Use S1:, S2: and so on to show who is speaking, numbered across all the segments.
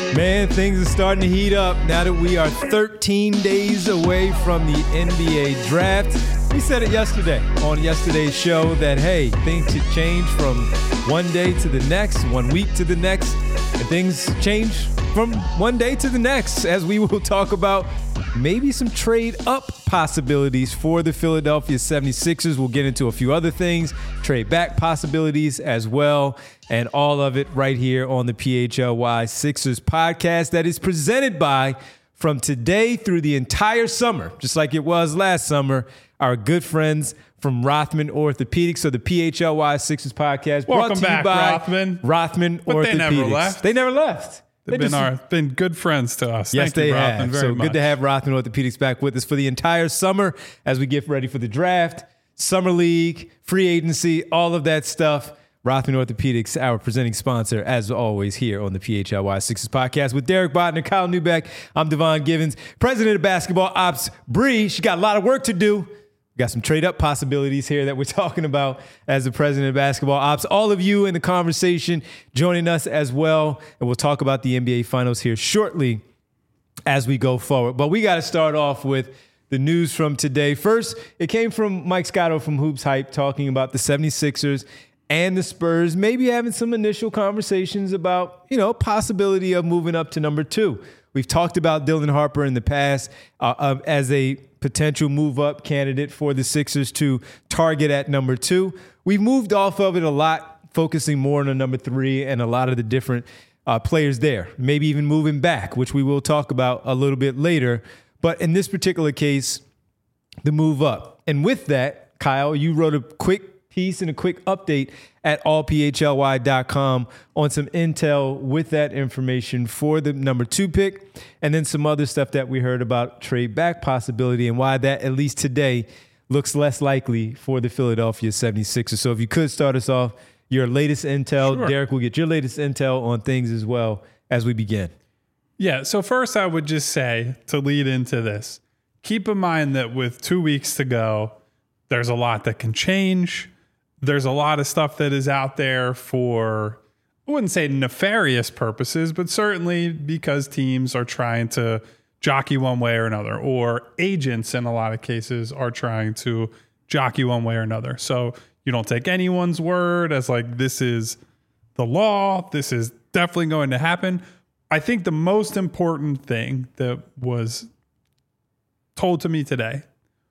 S1: Man, things are starting to heat up now that we are 13 days away from the NBA draft. We said it yesterday on yesterday's show that, hey, things could change from one day to the next, 1 week to the next, and things change from one day to the next, as we will talk about maybe some trade up possibilities for the Philadelphia 76ers. We'll get into a few other things, trade back possibilities as well, and all of it right here on the PHLY Sixers podcast that is presented by, from today through the entire summer, just like it was last summer, our good friends from Rothman Orthopedics. So the PHLY Sixers podcast brought to you by Rothman
S2: but
S1: Orthopedics. They never left.
S2: They've been good friends to us.
S1: Yes,
S2: Thank you,
S1: they
S2: Rothman,
S1: have.
S2: very
S1: So
S2: much.
S1: good to have Rothman Orthopedics back with us for the entire summer as we get ready for the draft, summer league, free agency, all of that stuff. Rothman Orthopedics, our presenting sponsor, as always, here on the PHLY Sixers podcast with Derek Botner, Kyle Newbeck. I'm Devon Givens, president of basketball ops. Bree, she got a lot of work to do. We got some trade up possibilities here that we're talking about as the president of basketball ops. All of you in the conversation joining us as well. And we'll talk about the NBA finals here shortly as we go forward. But we got to start off with the news from today. First, it came from Mike Scotto from Hoops Hype talking about the 76ers and the Spurs maybe having some initial conversations about, possibility of moving up to number 2. We've talked about Dylan Harper in the past as a potential move-up candidate for the Sixers to target at number 2. We've moved off of it a lot, focusing more on a number 3 and a lot of the different players there, maybe even moving back, which we will talk about a little bit later. But in this particular case, the move up. And with that, Kyle, you wrote a quick piece and a quick update at allphly.com on some intel with that information for the number 2 pick, and then some other stuff that we heard about trade back possibility and why that, at least today, looks less likely for the Philadelphia 76ers. So if you could start us off, your latest intel.
S2: Sure.
S1: Derek will get your latest intel on things as well as we begin.
S2: Yeah, so first I would just say, to lead into this, keep in mind that with 2 weeks to go, there's a lot that can change. There's a lot of stuff that is out there for, I wouldn't say nefarious purposes, but certainly because teams are trying to jockey one way or another, or agents in a lot of cases are trying to jockey one way or another. So you don't take anyone's word as like, this is the law, this is definitely going to happen. I think the most important thing that was told to me today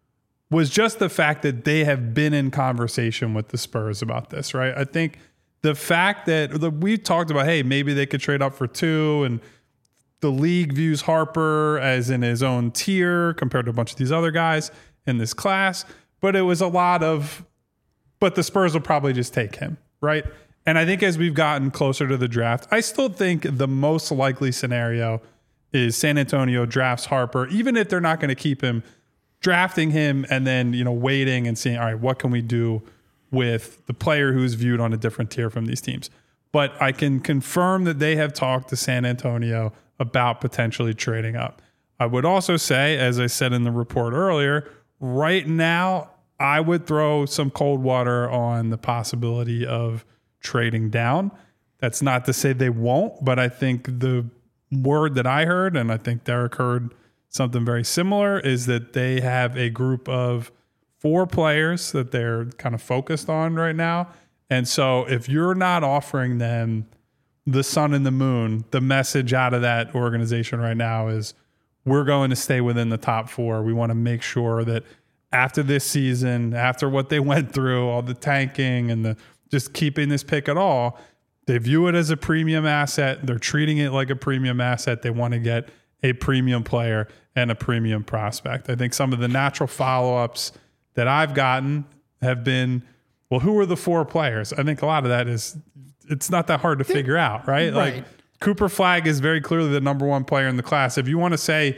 S2: was just the fact that they have been in conversation with the Spurs about this, right? I think the fact that we talked about, hey, maybe they could trade up for 2, and the league views Harper as in his own tier compared to a bunch of these other guys in this class. But it was a lot of, but the Spurs will probably just take him, right? And I think as we've gotten closer to the draft, I still think the most likely scenario is San Antonio drafts Harper, even if they're not going to keep him, drafting him and then, waiting and seeing, all right, what can we do with the player who's viewed on a different tier from these teams? But I can confirm that they have talked to San Antonio about potentially trading up. I would also say, as I said in the report earlier, right now, I would throw some cold water on the possibility of trading down. That's not to say they won't, but I think the word that I heard, and I think Derek heard something very similar, is that they have a group of 4 players that they're kind of focused on right now. And so if you're not offering them the sun and the moon, the message out of that organization right now is, we're going to stay within the top 4. We want to make sure that after this season, after what they went through, all the tanking and the just keeping this pick at all, they view it as a premium asset. They're treating it like a premium asset. They want to get a premium player and a premium prospect. I think some of the natural follow-ups that I've gotten have been, well, who are the 4 players? I think a lot of that is, it's not that hard to figure out, right? Like Cooper Flagg is very clearly the number 1 player in the class. If you want to say,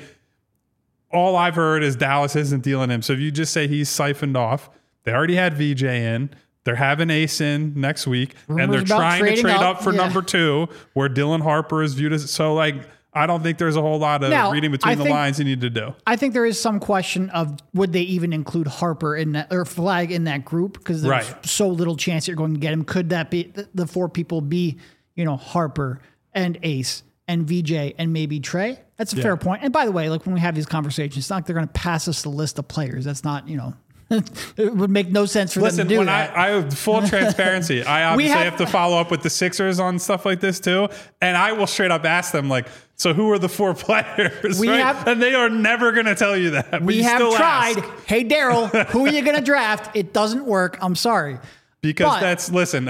S2: all I've heard is Dallas isn't dealing him. So if you just say he's siphoned off, they already had VJ in. They're having Ace in next week, and they're trying to trade up for number 2, where Dylan Harper is viewed as, so like, I don't think there's a whole lot of reading between the lines you need to do.
S3: I think there is some question of, would they even include Harper in that, or Flagg in that group? Because there's so little chance you're going to get him. Could that be the 4 people be, Harper and Ace and VJ and maybe Trey. That's a fair point. And by the way, like when we have these conversations, it's not like they're going to pass us the list of players. That's not, it would make no sense for them to do that.
S2: I full transparency. I obviously have to follow up with the Sixers on stuff like this too. And I will straight up ask them like, so who are the 4 players? And they are never going to tell you that.
S3: We have tried. Hey, Daryl, who are you going to draft? It doesn't work. I'm sorry.
S2: Because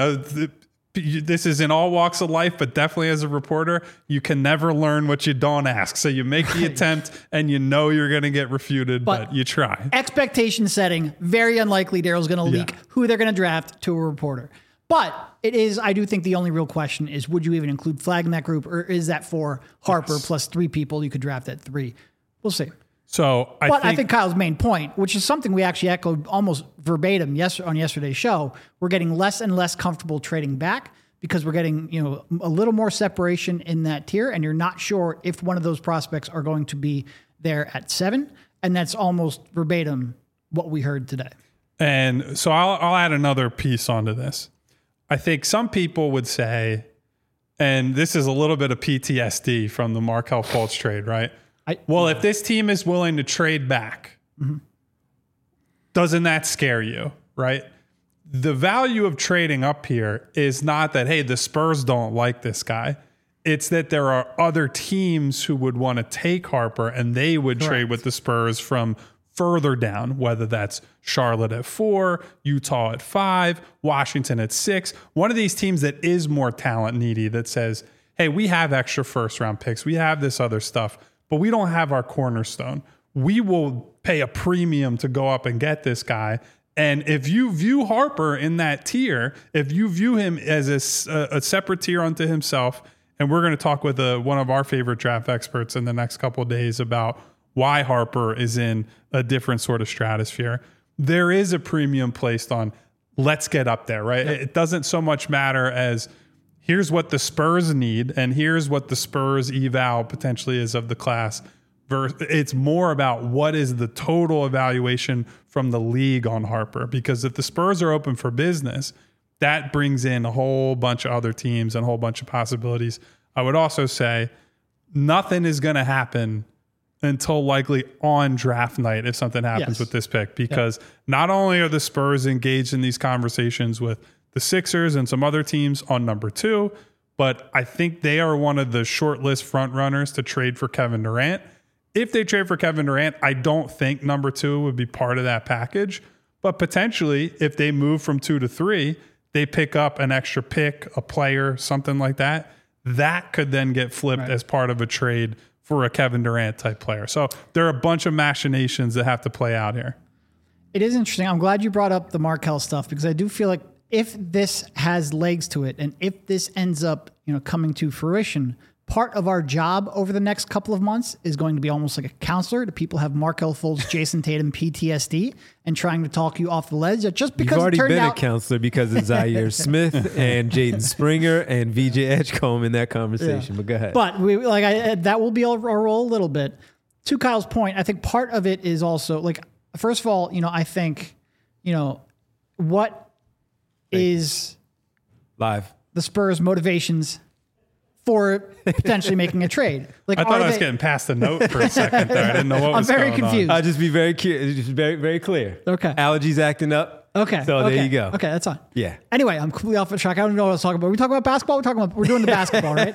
S2: this is in all walks of life, but definitely as a reporter, you can never learn what you don't ask. So you make the attempt and you're going to get refuted, but you try.
S3: Expectation setting, very unlikely Daryl's going to leak who they're going to draft to a reporter. But it is, I do think the only real question is, would you even include Flag in that group, or is that for Harper plus 3 people you could draft at 3? We'll see.
S2: So
S3: I think Kyle's main point, which is something we actually echoed almost verbatim on yesterday's show, we're getting less and less comfortable trading back because we're getting a little more separation in that tier, and you're not sure if one of those prospects are going to be there at 7, and that's almost verbatim what we heard today.
S2: And so I'll add another piece onto this. I think some people would say, and this is a little bit of PTSD from the Markelle Fultz trade, right? If this team is willing to trade back, doesn't that scare you, right? The value of trading up here is not that, hey, the Spurs don't like this guy. It's that there are other teams who would want to take Harper and they would trade with the Spurs from further down, whether that's Charlotte at 4, Utah at 5, Washington at 6. One of these teams that is more talent needy that says, hey, we have extra first round picks. We have this other stuff, but we don't have our cornerstone. We will pay a premium to go up and get this guy. And if you view Harper in that tier, if you view him as a separate tier unto himself, and we're going to talk with one of our favorite draft experts in the next couple of days about why Harper is in a different sort of stratosphere, there is a premium placed on let's get up there, right? Yep. It doesn't so much matter as here's what the Spurs need and here's what the Spurs eval potentially is of the class. It's more about what is the total evaluation from the league on Harper, because if the Spurs are open for business, that brings in a whole bunch of other teams and a whole bunch of possibilities. I would also say nothing is going to happen until likely on draft night if something happens with this pick, because not only are the Spurs engaged in these conversations with the Sixers and some other teams on number 2, but I think they are one of the short list front runners to trade for Kevin Durant. If they trade for Kevin Durant, I don't think number 2 would be part of that package, but potentially if they move from 2 to 3, they pick up an extra pick, a player, something like that. That could then get flipped as part of a trade for a Kevin Durant type player. So there are a bunch of machinations that have to play out here.
S3: It is interesting. I'm glad you brought up the Markelle stuff, because I do feel like if this has legs to it and if this ends up, coming to fruition, part of our job over the next couple of months is going to be almost like a counselor to people who have Markelle Fultz, Jason Tatum PTSD, and trying to talk you off the ledge. Just because
S1: you've already been a counselor because of Zaire Smith and Jaden Springer and VJ Edgecombe in that conversation. But go ahead.
S3: But that will be our role a little bit. To Kyle's point, I think part of it is also first of all, I think, what is
S1: live
S3: the Spurs' motivations for potentially making a trade?
S2: I thought I was getting past the note for a second there. I didn't know what was going on.
S3: I'm very confused.
S1: I'll just be very very clear.
S3: Okay.
S1: Allergies acting up.
S3: Okay.
S1: So there you go.
S3: Okay, that's fine.
S1: Yeah.
S3: Anyway, I'm completely off the track. I don't even know what I was talking about. We're talking about basketball. We're doing the basketball, right?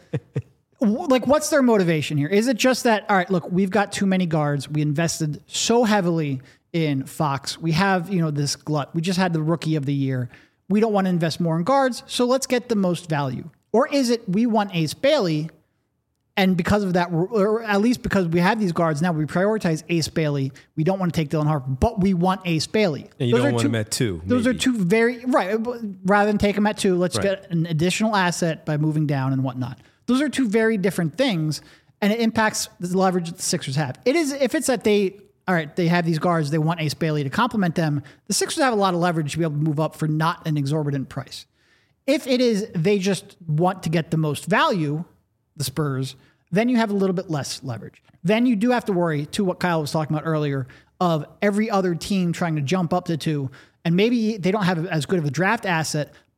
S3: What's their motivation here? Is it just that, all right, look, we've got too many guards. We invested so heavily in Fox. We have, this glut. We just had the rookie of the year. We don't want to invest more in guards, so let's get the most value. Or is it we want Ace Bailey, and because of that, or at least because we have these guards now, we prioritize Ace Bailey. We don't want to take Dylan Harper, but we want Ace Bailey.
S1: And you don't want him at 2.
S3: Those are two very, right. Rather than take him at 2, let's get an additional asset by moving down and whatnot. Those are two very different things, and it impacts the leverage that the Sixers have. It is, if it's that they have these guards, they want Ace Bailey to complement them, the Sixers have a lot of leverage to be able to move up for not an exorbitant price. If it is they just want to get the most value, the Spurs, then you have a little bit less leverage. Then you do have to worry, to what Kyle was talking about earlier, of every other team trying to jump up to 2, and maybe they don't have as good of a draft asset,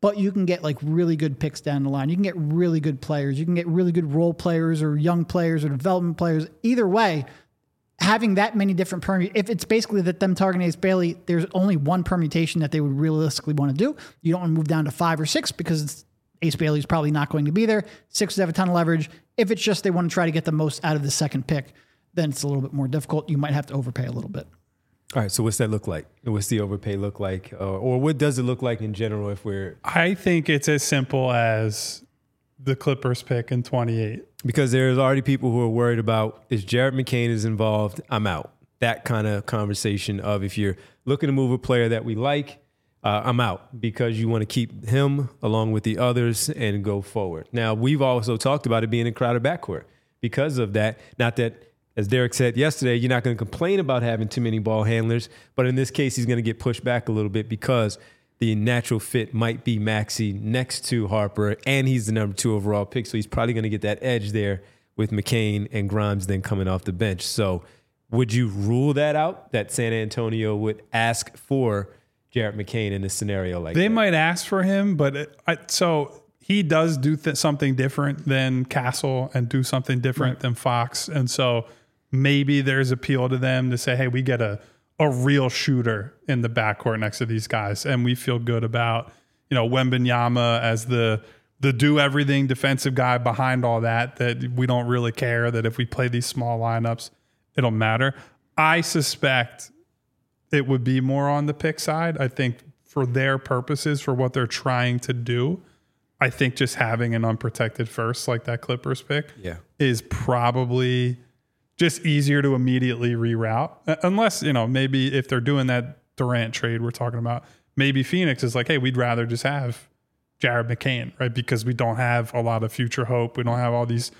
S3: but you can get like really good picks down the line. You can get really good players. You can get really good role players or young players or development players. Either way, having that many different if it's basically that them targeting Ace Bailey, there's only one permutation that they would realistically want to do. You don't want to move down to 5 or 6 because Ace Bailey's probably not going to be there. 6 have a ton of leverage. If it's just they want to try to get the most out of the second pick, then it's a little bit more difficult. You might have to overpay a little bit.
S1: All right, so what's that look like? What's the overpay look like? Or what does it look like in general if we're...
S2: I think it's as simple as the Clippers pick in 28.
S1: Because there's already people who are worried about, if Jared McCain is involved, I'm out. That kind of conversation of if you're looking to move a player that we like, I'm out because you want to keep him along with the others and go forward. Now, we've also talked about it being a crowded backcourt because of that. Not that... As Derek said yesterday, you're not going to complain about having too many ball handlers, but in this case, he's going to get pushed back a little bit because the natural fit might be Maxey next to Harper, and he's the number 2 overall pick, so he's probably going to get that edge there with McCain and Grimes then coming off the bench. So would you rule that out, that San Antonio would ask for Jared McCain in a scenario like that?
S2: They might ask for him, but so he does do something different than Castle and do something different than Fox, and so maybe there's appeal to them to say, hey, we get a real shooter in the backcourt next to these guys. And we feel good about, Wembanyama as the do everything defensive guy behind all that we don't really care that if we play these small lineups, it'll matter. I suspect it would be more on the pick side. I think for their purposes, for what they're trying to do, I think just having an unprotected first like that Clippers pick is probably just easier to immediately reroute, unless, maybe if they're doing that Durant trade we're talking about, maybe Phoenix is like, hey, we'd rather just have Jared McCain, right? Because we don't have a lot of future hope. We don't have all these,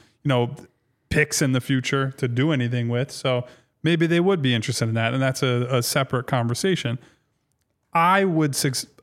S2: picks in the future to do anything with. So maybe they would be interested in that. And that's a separate conversation. I would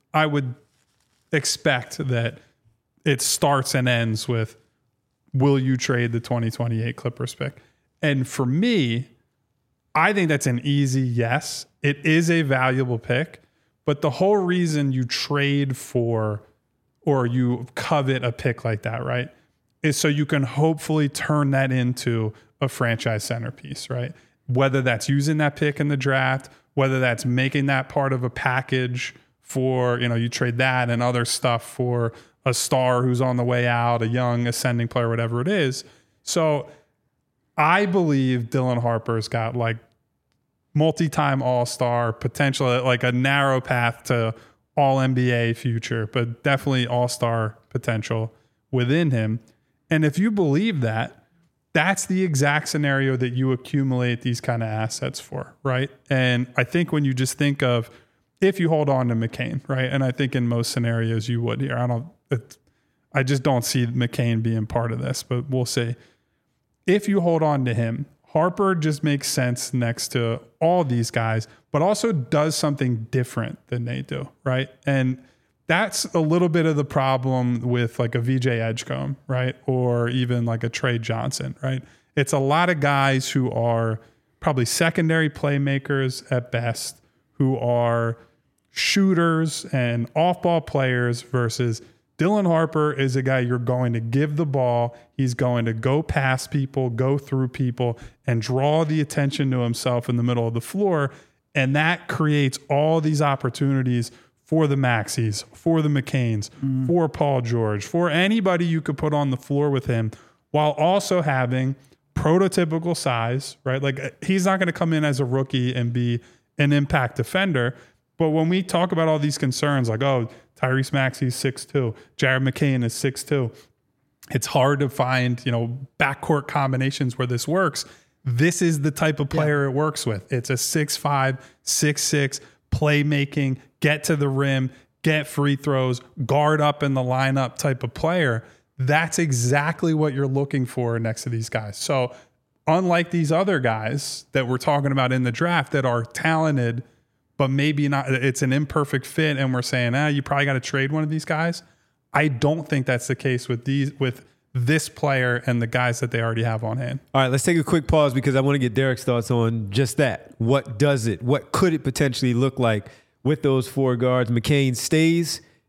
S2: expect that it starts and ends with, will you trade the 2028 Clippers pick? And for me, I think that's an easy yes. It is a valuable pick, but the whole reason you trade for or you covet a pick like that, right, is so you can hopefully turn that into a franchise centerpiece, right? Whether that's using that pick in the draft, whether that's making that part of a package for, you trade that and other stuff for a star who's on the way out, a young ascending player, whatever it is. So I believe Dylan Harper's got like multi-time all-star potential, like a narrow path to all-NBA future, but definitely all-star potential within him. And if you believe that, that's the exact scenario that you accumulate these kind of assets for, right? And I think when you just think of if you hold on to McCain, right? And I think in most scenarios you would here. I just don't see McCain being part of this, but we'll see. If you hold on to him, Harper just makes sense next to all these guys, but also does something different than they do, right? And that's a little bit of the problem with like a VJ Edgecombe, right? Or even like a Trey Johnson, right? It's a lot of guys who are probably secondary playmakers at best, who are shooters and off-ball players versus Dylan Harper is a guy you're going to give the ball. He's going to go past people, go through people, and draw the attention to himself in the middle of the floor. And that creates all these opportunities for the Maxies, for the McCains, for Paul George, for anybody you could put on the floor with him, while also having prototypical size, right? Like he's not going to come in as a rookie and be an impact defender. But when we talk about all these concerns, like, oh, Tyrese Maxey's 6'2", Jared McCain is 6'2", it's hard to find, backcourt combinations where this works. This is the type of player it works with. It's a 6'5", 6'6", playmaking, get to the rim, get free throws, guard up in the lineup type of player. That's exactly what you're looking for next to these guys. So unlike these other guys that we're talking about in the draft that are talented, but maybe not, it's an imperfect fit, and we're saying, you probably got to trade one of these guys. I don't think that's the case with this player and the guys that they already have on hand.
S1: All right, let's take a quick pause because I want to get Derek's thoughts on just that. What could it potentially look like with those 4 guards? McCain stays.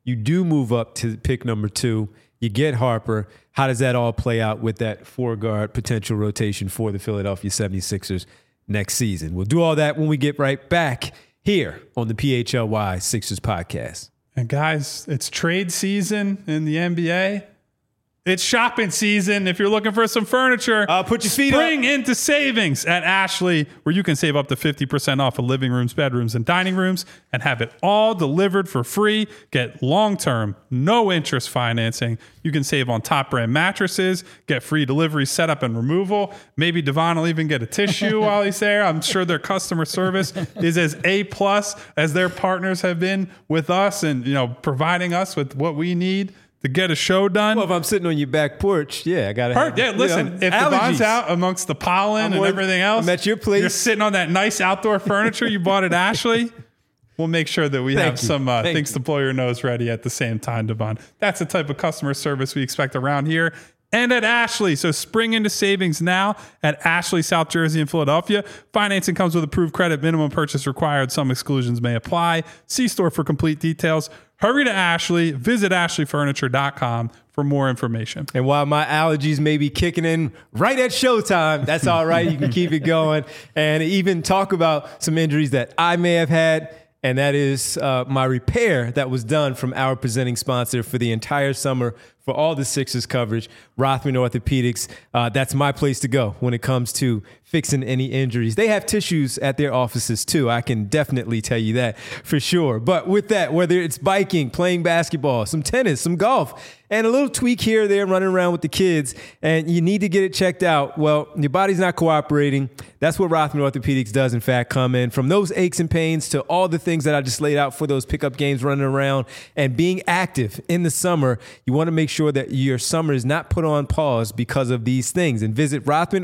S1: you do move up to pick number 2. You get Harper. How does that all play out with that 4-guard potential rotation for the Philadelphia 76ers next season? We'll do all that when we get right back here on the PHLY Sixers podcast.
S2: And guys, it's trade season in the NBA. It's shopping season. If you're looking for some furniture,
S1: put your feet up.
S2: Spring into savings at Ashley, where you can save up to 50% off of living rooms, bedrooms, and dining rooms and have it all delivered for free. Get long-term, no-interest financing. You can save on top-brand mattresses, get free delivery, setup, and removal. Maybe Devon will even get a tissue while he's there. I'm sure their customer service is as A+ as their partners have been with us and, providing us with what we need to get a show done.
S1: Well, if I'm sitting on your back porch, I got to
S2: Yeah, listen, if Devon's out amongst the pollen and everything else,
S1: I'm at your place.
S2: You're sitting on that nice outdoor furniture you bought at Ashley. We'll make sure that we have some things to blow your nose ready at the same time, Devon. That's the type of customer service we expect around here and at Ashley. So spring into savings now at Ashley, South Jersey, and Philadelphia. Financing comes with approved credit, minimum purchase required. Some exclusions may apply. See store for complete details. Hurry to Ashley. Visit ashleyfurniture.com for more information.
S1: And while my allergies may be kicking in right at showtime, that's all right. You can keep it going and even talk about some injuries that I may have had. And that is my repair that was done from our presenting sponsor for the entire summer for all the Sixers coverage, Rothman Orthopedics. That's my place to go when it comes to fixing any injuries. They have tissues at their offices too. I can definitely tell you that for sure. But with that, whether it's biking, playing basketball, some tennis, some golf, and a little tweak here or there running around with the kids, and you need to get it checked out. Well, your body's not cooperating. That's what Rothman Orthopedics does, in fact, come in. From those aches and pains to all the things that I just laid out for those pickup games running around and being active in the summer, you want to make sure that your summer is not put on pause because of these things. And visit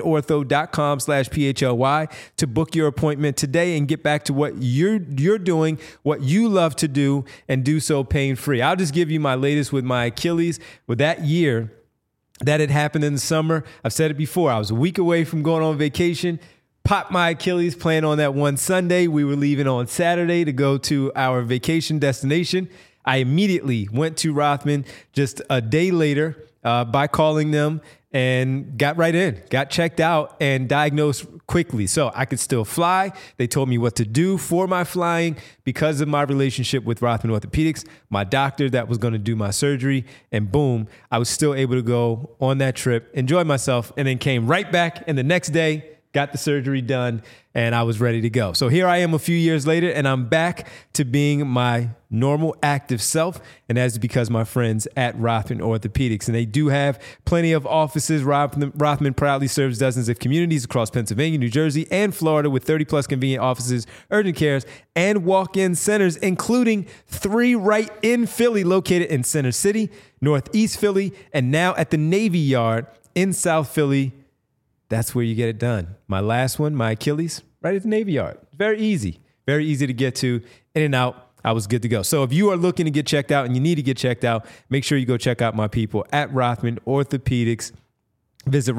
S1: rothmanortho.com/PHLY to book your appointment today and get back to what you're doing, what you love to do, and do so pain-free. I'll just give you my latest with my Achilles. With that year that had happened in the summer, I've said it before, I was a week away from going on vacation, popped my Achilles playing on that one Sunday. We were leaving on Saturday to go to our vacation destination. I immediately went to Rothman just a day later by calling them and got right in, got checked out and diagnosed quickly. So I could still fly. They told me what to do for my flying because of my relationship with Rothman Orthopedics, my doctor that was going to do my surgery, and boom, I was still able to go on that trip, enjoy myself, and then came right back. And the next day, got the surgery done, and I was ready to go. So here I am a few years later, and I'm back to being my normal active self, and that's because my friends at Rothman Orthopedics. And they do have plenty of offices. Rothman proudly serves dozens of communities across Pennsylvania, New Jersey, and Florida with 30-plus convenient offices, urgent cares, and walk-in centers, including 3 right in Philly, located in Center City, Northeast Philly, and now at the Navy Yard in South Philly. That's where you get it done. My last one, my Achilles, right at the Navy Yard. Very easy to get to, in and out. I was good to go. So if you are looking to get checked out and you need to get checked out, make sure you go check out my people at Rothman Orthopedics. Visit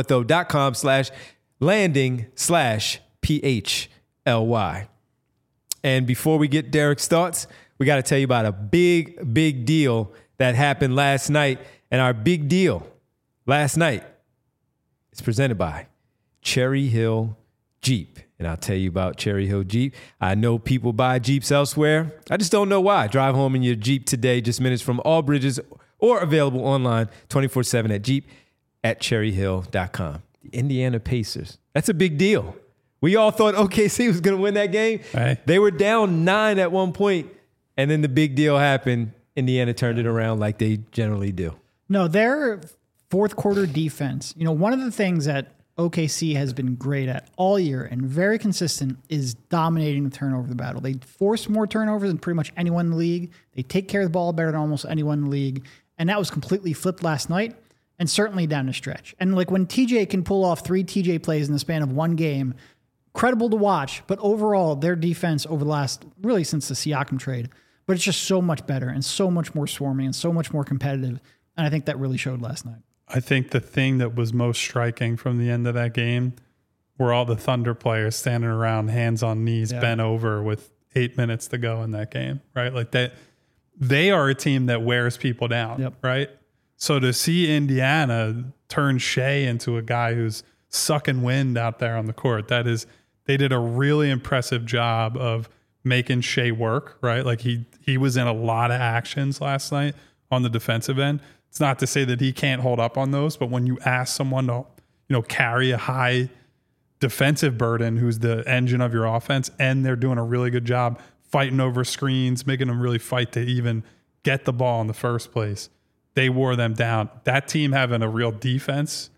S1: rothmanortho.com/landing/PHLY. And before we get Derek's thoughts, we got to tell you about a big deal that happened last night. And our big deal last night is presented by Cherry Hill Jeep. And I'll tell you about Cherry Hill Jeep. I know people buy Jeeps elsewhere. I just don't know why. Drive home in your Jeep today, just minutes from all bridges, or available online 24/7 at Jeep at cherryhill.com. The Indiana Pacers. That's a big deal. We all thought OKC was going to win that game.
S2: Right.
S1: They were down 9 at one point, and then the big deal happened. Indiana turned it around like they generally do.
S3: No, their fourth quarter defense, one of the things that OKC has been great at all year and very consistent is dominating the turnover battle. They force more turnovers than pretty much anyone in the league. They take care of the ball better than almost anyone in the league. And that was completely flipped last night and certainly down the stretch. And like when TJ can pull off 3 TJ plays in the span of one game, credible to watch. But overall, their defense over the last, really since the Siakam trade, but it's just so much better and so much more swarming and so much more competitive. And I think that really showed last night.
S2: I think the thing that was most striking from the end of that game were all the Thunder players standing around, hands on knees, bent over with 8 minutes to go in that game, right? Like that, they are a team that wears people down,
S3: Yep.
S2: right? So to see Indiana turn Shea into a guy who's sucking wind out there on the court, they did a really impressive job of making Shea work, right? Like he was in a lot of actions last night on the defensive end. It's not to say that he can't hold up on those, but when you ask someone to, carry a high defensive burden, who's the engine of your offense, and they're doing a really good job fighting over screens, making them really fight to even get the ball in the first place, they wore them down. That team having a real defense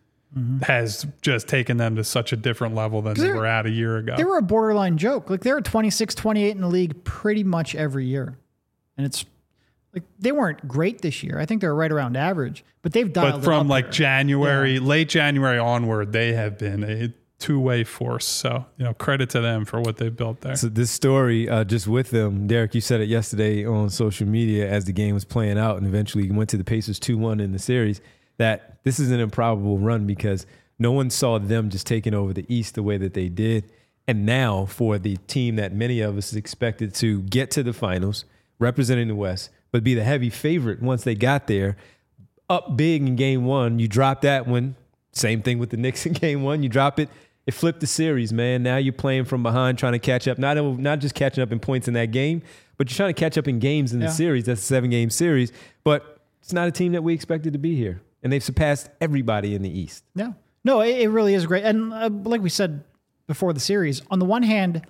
S2: has just taken them to such a different level than they were at a year ago.
S3: They were a borderline joke. Like they were 26, 28 in the league pretty much every year. And it's like they weren't great this year. I think they're right around average, but they've dialed
S2: But from
S3: it up
S2: like
S3: there.
S2: January, late January onward, they have been a two-way force. So, credit to them for what they've built there.
S1: So this story, just with them, Derek, you said it yesterday on social media as the game was playing out and eventually went to the Pacers 2-1 in the series, that this is an improbable run because no one saw them just taking over the East the way that they did. And now for the team that many of us expected to get to the finals, representing the West, but be the heavy favorite once they got there, up big in game one, you drop that one. Same thing with the Knicks in game one. You drop it. It flipped the series, man. Now you're playing from behind, trying to catch up. Not just catching up in points in that game, but you're trying to catch up in games in the series. That's a 7-game series. But it's not a team that we expected to be here. And they've surpassed everybody in the East.
S3: Yeah. No, it really is great. And like we said before the series, on the one hand,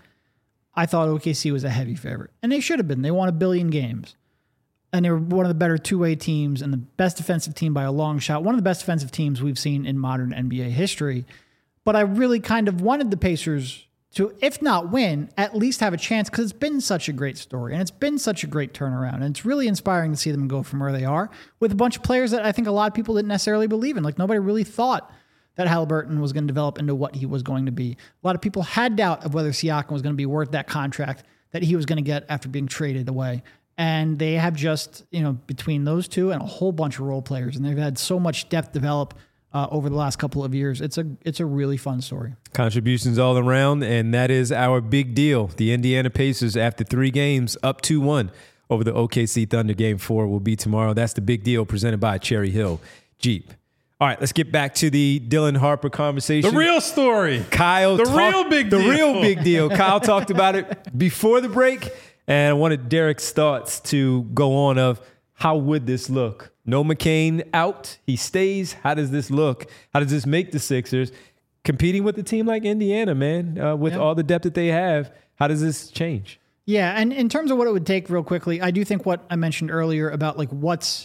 S3: I thought OKC was a heavy favorite. And they should have been. They won 1 billion games. And they were one of the better two-way teams and the best defensive team by a long shot. One of the best defensive teams we've seen in modern NBA history. But I really kind of wanted the Pacers to, if not win, at least have a chance because it's been such a great story and it's been such a great turnaround. And it's really inspiring to see them go from where they are with a bunch of players that I think a lot of people didn't necessarily believe in. Like nobody really thought that Haliburton was going to develop into what he was going to be. A lot of people had doubt of whether Siakam was going to be worth that contract that he was going to get after being traded away. And they have just, between those two and a whole bunch of role players, and they've had so much depth develop over the last couple of years. It's a really fun story.
S1: Contributions all around, and that is our big deal. The Indiana Pacers, after 3 games, up 2-1 over the OKC Thunder. Game 4 will be tomorrow. That's the big deal presented by Cherry Hill Jeep. All right, let's get back to the Dylan Harper conversation.
S2: The real story.
S1: Kyle.
S2: The real big deal.
S1: The real big deal. Kyle talked about it before the break, and I wanted Derek's thoughts to go on of how would this look? No McCain out. He stays. How does this look? How does this make the Sixers competing with a team like Indiana, man, with all the depth that they have? How does this change?
S3: Yeah, and in terms of what it would take real quickly, I do think what I mentioned earlier about like what's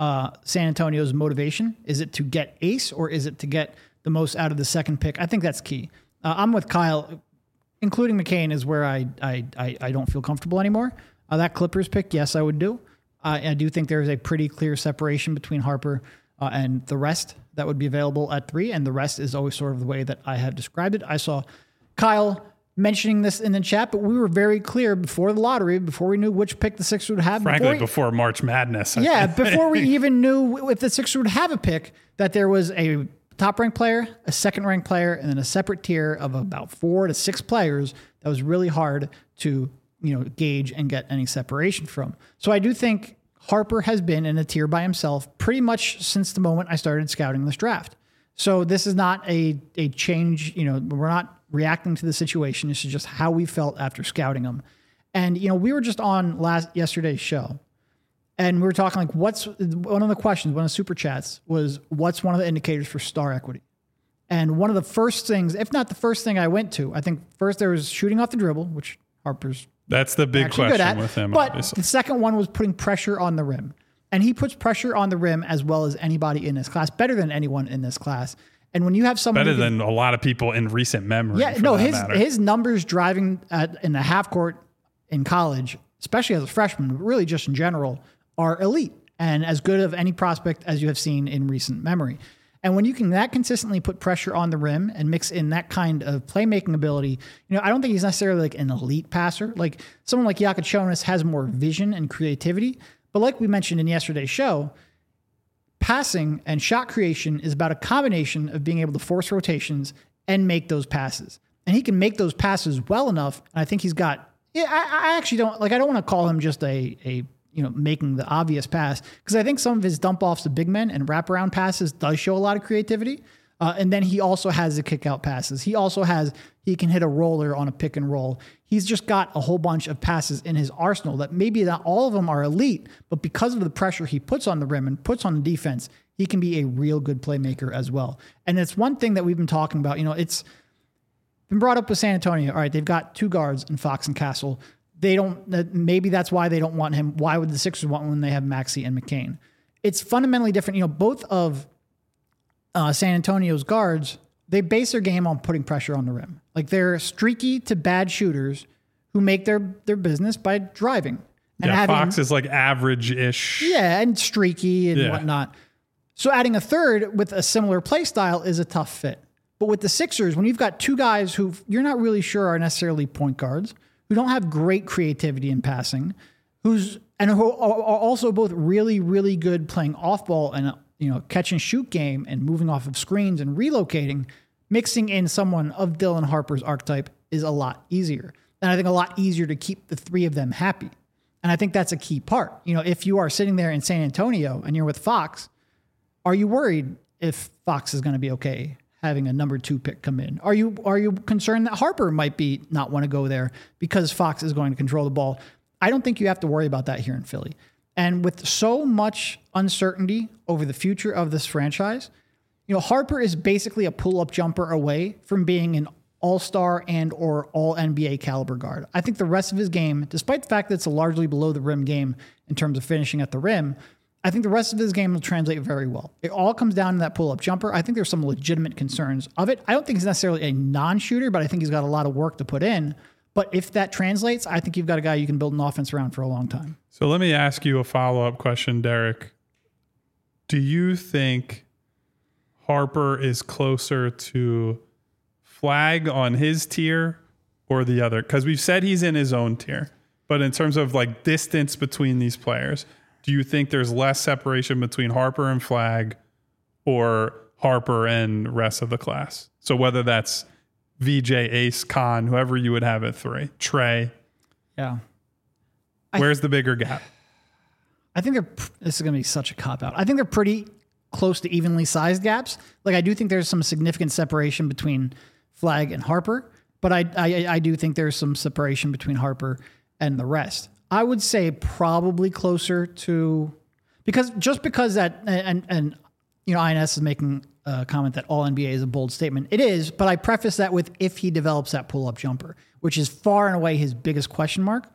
S3: San Antonio's motivation. Is it to get ace or is it to get the most out of the second pick? I think that's key. I'm with Kyle. Including McCain is where I don't feel comfortable anymore. That Clippers pick, yes, I would do. I do think there is a pretty clear separation between Harper and the rest that would be available at 3, and the rest is always sort of the way that I have described it. I saw Kyle mentioning this in the chat, but we were very clear before the lottery, before we knew which pick the Sixers would have.
S2: Frankly, before March Madness.
S3: Before we even knew if the Sixers would have a pick, that there was a top-ranked player, a second-ranked player, and then a separate tier of about 4 to 6 players that was really hard to gauge and get any separation from. So I do think Harper has been in a tier by himself pretty much since the moment I started scouting this draft. So this is not a change. We're not reacting to the situation. This is just how we felt after scouting him. And, we were just on yesterday's show. And we were talking like, what's one of the questions, one of the super chats was, what's one of the indicators for star equity? And one of the first things, if not the first thing I went to, I think first there was shooting off the dribble, which Harper's
S2: that's the big question with him.
S3: But
S2: obviously.
S3: The second one was putting pressure on the rim. And he puts pressure on the rim as well as anybody in this class, better than anyone in this class. And when you have someone
S2: better than a lot of people in recent memory.
S3: Yeah, no, his numbers driving in the half court in college, especially as a freshman, but really just in general, are elite and as good of any prospect as you have seen in recent memory. And when you can that consistently put pressure on the rim and mix in that kind of playmaking ability, I don't think he's necessarily like an elite passer. Like someone like Jakic has more vision and creativity. But like we mentioned in yesterday's show, passing and shot creation is about a combination of being able to force rotations and make those passes. And he can make those passes well enough. And I think he's got, I actually don't, I don't want to call him just a making the obvious pass. Because I think some of his dump offs to big men and wraparound passes does show a lot of creativity. And then he also has the kick out passes. He can hit a roller on a pick and roll. He's just got a whole bunch of passes in his arsenal that maybe not all of them are elite, but because of the pressure he puts on the rim and puts on the defense, he can be a real good playmaker as well. And it's one thing that we've been talking about. It's been brought up with San Antonio. All right, they've got two guards in Fox and Castle. Maybe that's why they don't want him. Why would the Sixers want him when they have Maxey and McCain? It's fundamentally different. Both of San Antonio's guards, they base their game on putting pressure on the rim. Like they're streaky to bad shooters who make their business by driving. And
S2: Fox is like average-ish.
S3: Yeah, and streaky and whatnot. So adding a third with a similar play style is a tough fit. But with the Sixers, when you've got two guys who you're not really sure are necessarily point guards, who don't have great creativity in passing, who are also both really, really good playing off ball and catch and shoot game and moving off of screens and relocating, mixing in someone of Dylan Harper's archetype is a lot easier. And I think a lot easier to keep the three of them happy. And I think that's a key part. If you are sitting there in San Antonio and you're with Fox, are you worried if Fox is going to be okay having a number 2 pick come in? Are you concerned that Harper might not want to go there because Fox is going to control the ball? I don't think you have to worry about that here in Philly. And with so much uncertainty over the future of this franchise, Harper is basically a pull-up jumper away from being an all-star and or all-NBA caliber guard. I think the rest of his game, despite the fact that it's a largely below-the-rim game in terms of finishing at the rim, I think the rest of his game will translate very well. It all comes down to that pull-up jumper. I think there's some legitimate concerns of it. I don't think he's necessarily a non-shooter, but I think he's got a lot of work to put in. But if that translates, I think you've got a guy you can build an offense around for a long time.
S2: So let me ask you a follow-up question, Derek. Do you think Harper is closer to Flag on his tier or the other? Because we've said he's in his own tier. But in terms of like distance between these players, do you think there's less separation between Harper and Flag or Harper and rest of the class? So whether that's VJ, Ace, Khan, whoever you would have at 3, Trey.
S3: Yeah.
S2: Where's the bigger gap?
S3: I think this is going to be such a cop-out. I think they're pretty close to evenly sized gaps. Like I do think there's some significant separation between Flag and Harper, but I do think there's some separation between Harper and the rest. I would say probably closer to because that and INS is making a comment that all NBA is a bold statement. It is, but I preface that with if he develops that pull-up jumper, which is far and away his biggest question mark.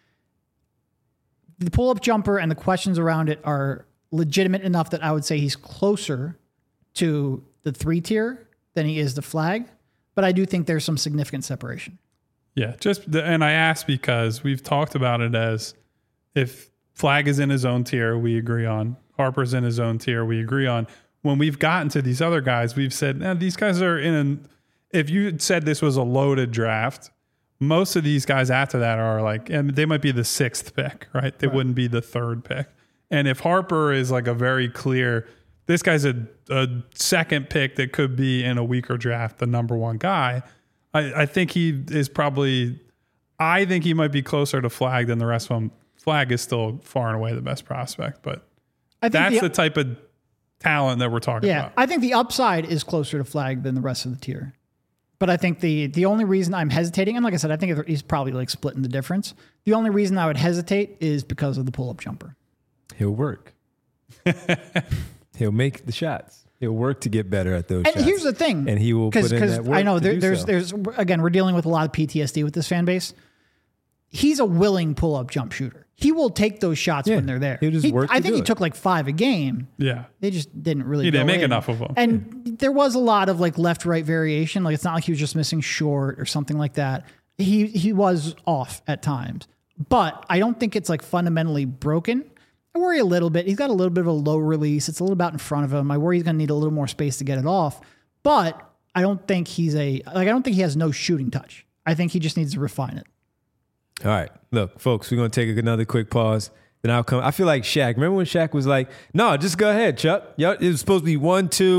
S3: The pull-up jumper and the questions around it are legitimate enough that I would say he's closer to the 3 tier than he is the Flag, but I do think there's some significant separation.
S2: Yeah, and I asked because we've talked about it as if Flag is in his own tier, we agree on. Harper's in his own tier, we agree on. When we've gotten to these other guys, we've said, these guys are if you said this was a loaded draft, most of these guys after that are like, and they might be the 6th pick, right? They wouldn't be the 3rd pick. And if Harper is like a very clear, this guy's a 2nd pick that could be in a weaker draft, the number 1 guy, I think he is probably, I think he might be closer to Flag than the rest of them. Flag is still far and away the best prospect, but that's the type of talent that we're talking about.
S3: I think the upside is closer to Flag than the rest of the tier. But I think the only reason I'm hesitating, and like I said, I think he's probably like splitting the difference. The only reason I would hesitate is because of the pull-up jumper.
S1: He'll work. He'll make the shots. He'll work to get better at those shots.
S3: And here's the thing.
S1: And he will put in that work.
S3: I know
S1: there's
S3: again, we're dealing with a lot of PTSD with this fan base. He's a willing pull-up jump shooter. He will take those shots when they're there.
S1: He'll just work
S3: I think he took like 5 a game.
S2: Yeah.
S3: They just didn't really
S2: He didn't make
S3: in.
S2: enough of them.
S3: And there was a lot of like left-right variation. Like it's not like he was just missing short or something like that. He was off at times. But I don't think it's like fundamentally broken. I worry a little bit. He's got a little bit of a low release. It's a little bit in front of him. I worry he's going to need a little more space to get it off. But I don't think I don't think he has no shooting touch. I think he just needs to refine it.
S1: All right. Look, folks, we're going to take another quick pause. Then I'll come. I feel like Shaq. Remember when Shaq was like, no, just go ahead, Chuck. It was supposed to be 1, 2.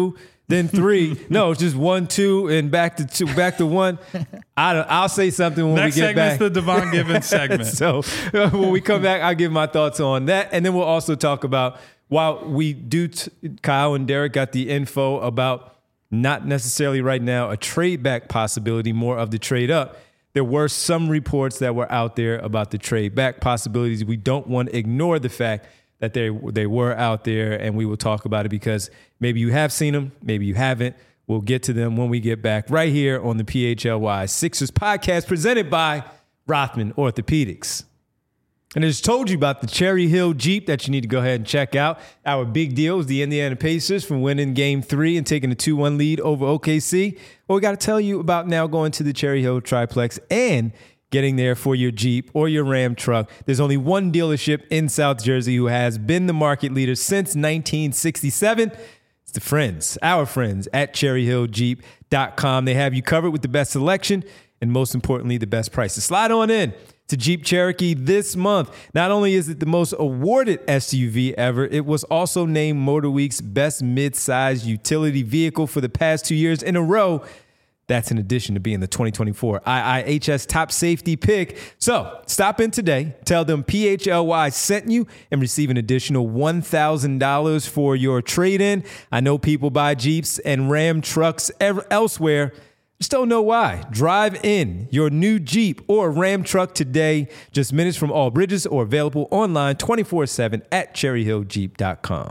S1: then 3. No, it's just 1, 2, and back to 2, back to 1. I'll say something when
S2: Next
S1: we get back.
S2: segment's the Devon Givens segment.
S1: So when we come back, I'll give my thoughts on that. And then we'll also talk about, while we do, Kyle and Derek got the info about not necessarily right now a trade back possibility, more of the trade up. There were some reports that were out there about the trade back possibilities. We don't want to ignore the fact that they were out there, and we will talk about it because maybe you have seen them, maybe you haven't. We'll get to them when we get back right here on the PHLY Sixers podcast presented by Rothman Orthopedics. And I just told you about the Cherry Hill Jeep that you need to go ahead and check out. Our big deal is the Indiana Pacers from winning Game 3 and taking a 2-1 lead over OKC. Well, we got to tell you about now going to the Cherry Hill Triplex and getting there for your Jeep or your Ram truck. There's only one dealership in South Jersey who has been the market leader since 1967. It's the friends, our friends at cherryhilljeep.com. They have you covered with the best selection and, most importantly, the best prices. Slide on in to Jeep Cherokee this month. Not only is it the most awarded SUV ever, it was also named MotorWeek's best mid-size utility vehicle for the past 2 years in a row. That's in addition to being the 2024 IIHS top safety pick. So stop in today, tell them PHLY sent you, and receive an additional $1,000 for your trade-in. I know people buy Jeeps and Ram trucks elsewhere. Just don't know why. Drive in your new Jeep or Ram truck today, just minutes from all bridges, or available online 24/7 at cherryhilljeep.com.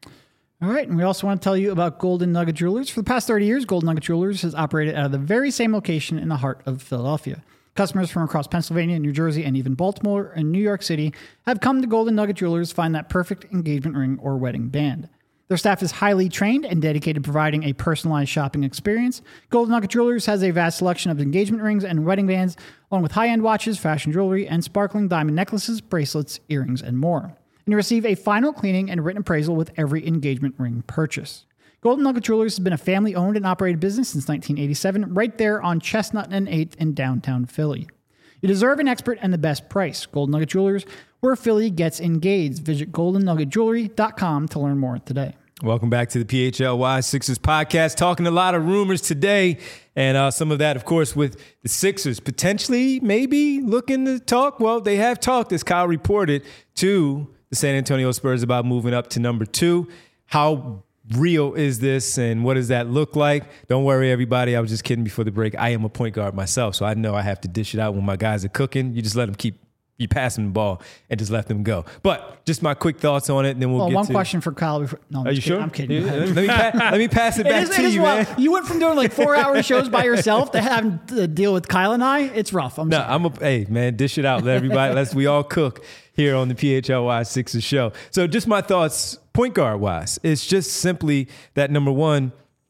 S3: All right, and we also want to tell you about Golden Nugget Jewelers. For the past 30 years, Golden Nugget Jewelers has operated out of the very same location in the heart of Philadelphia. Customers from across Pennsylvania, New Jersey, and even Baltimore and New York City have come to Golden Nugget Jewelers to find that perfect engagement ring or wedding band. Their staff is highly trained and dedicated to providing a personalized shopping experience. Golden Nugget Jewelers has a vast selection of engagement rings and wedding bands, along with high-end watches, fashion jewelry, and sparkling diamond necklaces, bracelets, earrings, and more. And you receive a final cleaning and written appraisal with every engagement ring purchase. Golden Nugget Jewelers has been a family-owned and operated business since 1987, right there on Chestnut and 8th in downtown Philly. You deserve an expert and the best price. Golden Nugget Jewelers, where Philly gets engaged. Visit goldennuggetjewelry.com to learn more today.
S1: Welcome back to the PHLY Sixers podcast. Talking a lot of rumors today, and some of that, of course, with the Sixers potentially maybe looking to talk. Well, they have talked, as Kyle reported, to the San Antonio Spurs about moving up to number 2. How real is this, and what does that look like? Don't worry, everybody. I was just kidding before the break. I am a point guard myself, so I know I have to dish it out when my guys are cooking. You just let them you pass them the ball and just let them go. But just my quick thoughts on it, and then we'll get
S3: one
S1: to
S3: question for Kyle. Before, no, I'm
S1: Are you
S3: kidding.
S1: sure?
S3: I'm kidding.
S1: Yeah, let me pass it back to you, man.
S3: You went from doing like 4-hour shows by yourself to having to deal with Kyle and I. It's rough.
S1: Hey, man, dish it out. Let everybody, we all cook here on the PHLY Sixers show. So just my thoughts, point guard wise, it's just simply that, number one,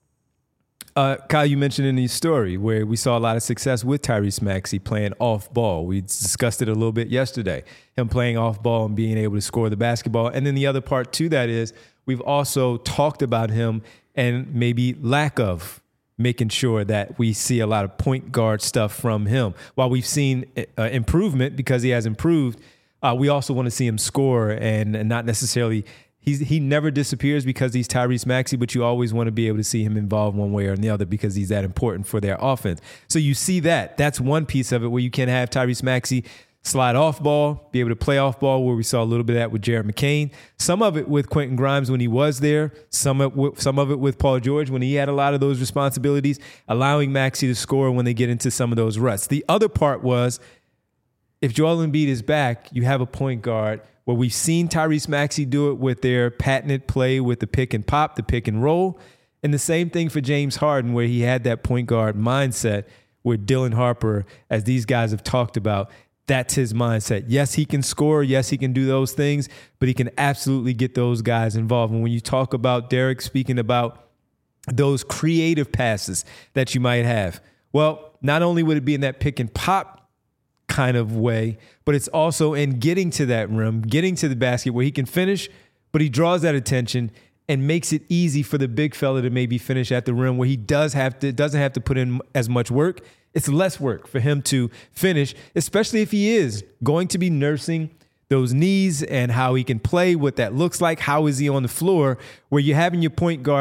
S1: Kyle, you mentioned in the story where we saw a lot of success with Tyrese Maxey playing off ball. We discussed it a little bit yesterday, him playing off ball and being able to score the basketball. And then the other part to that is we've also talked about him and maybe lack of making sure that we see a lot of point guard stuff from him. While we've seen improvement because he has improved, we also want to see him score and not necessarily. He never disappears because he's Tyrese Maxey, but you always want to be able to see him involved one way or the other because he's that important for their offense. So you see that. That's one piece of it where you can have Tyrese Maxey slide off ball, be able to play off ball, where we saw a little bit of that with Jared McCain. Some of it with Quentin Grimes when he was there. Some of it with Paul George when he had a lot of those responsibilities, allowing Maxey to score when they get into some of those ruts. The other part was if Joel Embiid is back, you have a point guard where we've seen Tyrese Maxey do it with their patented play with the pick and pop, the pick and roll. And the same thing for James Harden, where he had that point guard mindset with Dylan Harper, as these guys have talked about. That's his mindset. Yes, he can score. Yes, he can do those things, but he can absolutely get those guys involved. And when you talk about Derek speaking about those creative passes that you might have, well, not only would it be in that pick and pop kind of way, but it's also in getting to that rim, getting to the basket where he can finish, but he draws that attention and makes it easy for the big fella to maybe finish at the rim where he doesn't have to put in as much work. It's less work for him to finish, especially if he is going to be nursing those knees and how he can play, what that looks like. How is he on the floor where you're having your point guard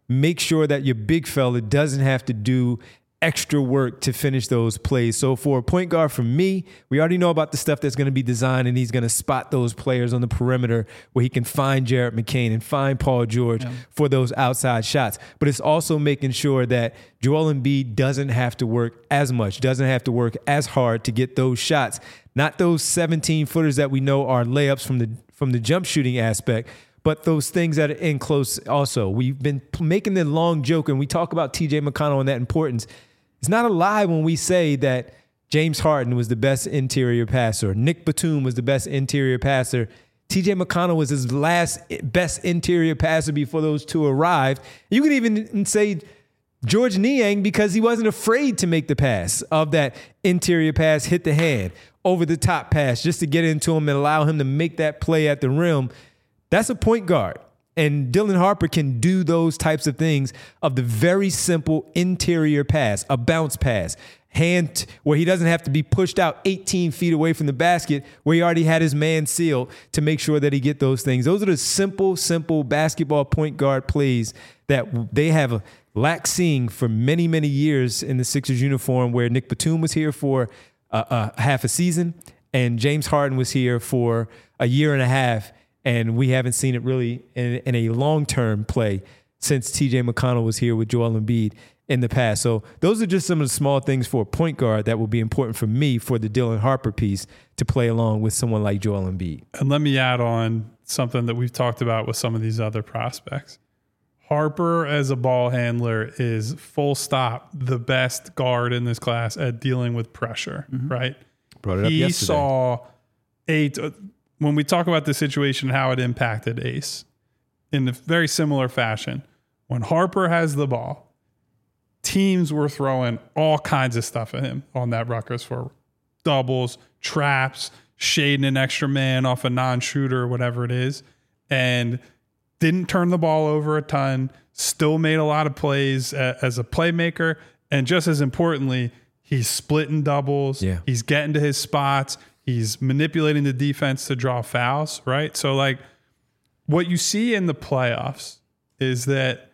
S1: make sure that your big fella doesn't have to do extra work to finish those plays. So for a point guard, for me, we already know about the stuff that's going to be designed, and he's going to spot those players on the perimeter where he can find Jared McCain and find Paul George for those outside shots. But it's also making sure that Joel Embiid doesn't have to work as much, doesn't have to work as hard to get those shots. Not those 17-footers that we know are layups from the jump shooting aspect, but those things that are in close also. We've been making the long joke, and we talk about T.J. McConnell and that importance. It's not a lie when we say that James Harden was the best interior passer. Nick Batum was the best interior passer. T.J. McConnell was his last best interior passer before those two arrived. You could even say George Niang, because he wasn't afraid to make the pass of that interior pass, hit the hand, over the top pass, just to get into him and allow him to make that play at the rim. That's a point guard. And Dylan Harper can do those types of things of the very simple interior pass, a bounce pass, hand where he doesn't have to be pushed out 18 feet away from the basket where he already had his man sealed to make sure that he get those things. Those are the simple basketball point guard plays that they have lacked seeing for many, many years in the Sixers uniform, where Nick Batum was here for half a season and James Harden was here for a year and a half. And we haven't seen it really in a long-term play since T.J. McConnell was here with Joel Embiid in the past. So those are just some of the small things for a point guard that will be important for me for the Dylan Harper piece to play along with someone like Joel Embiid.
S2: And let me add on something that we've talked about with some of these other prospects. Harper as a ball handler is full stop the best guard in this class at dealing with pressure, right?
S1: Brought it up yesterday. He
S2: saw when we talk about the situation, how it impacted Ace in a very similar fashion. When Harper has the ball, teams were throwing all kinds of stuff at him on that Rutgers floor. Doubles, traps, shading an extra man off a non-shooter or whatever it is. And didn't turn the ball over a ton, still made a lot of plays as a playmaker. And just as importantly, he's splitting doubles.
S1: Yeah.
S2: He's getting to his spots. He's manipulating the defense to draw fouls, right? So, like, what you see in the playoffs is that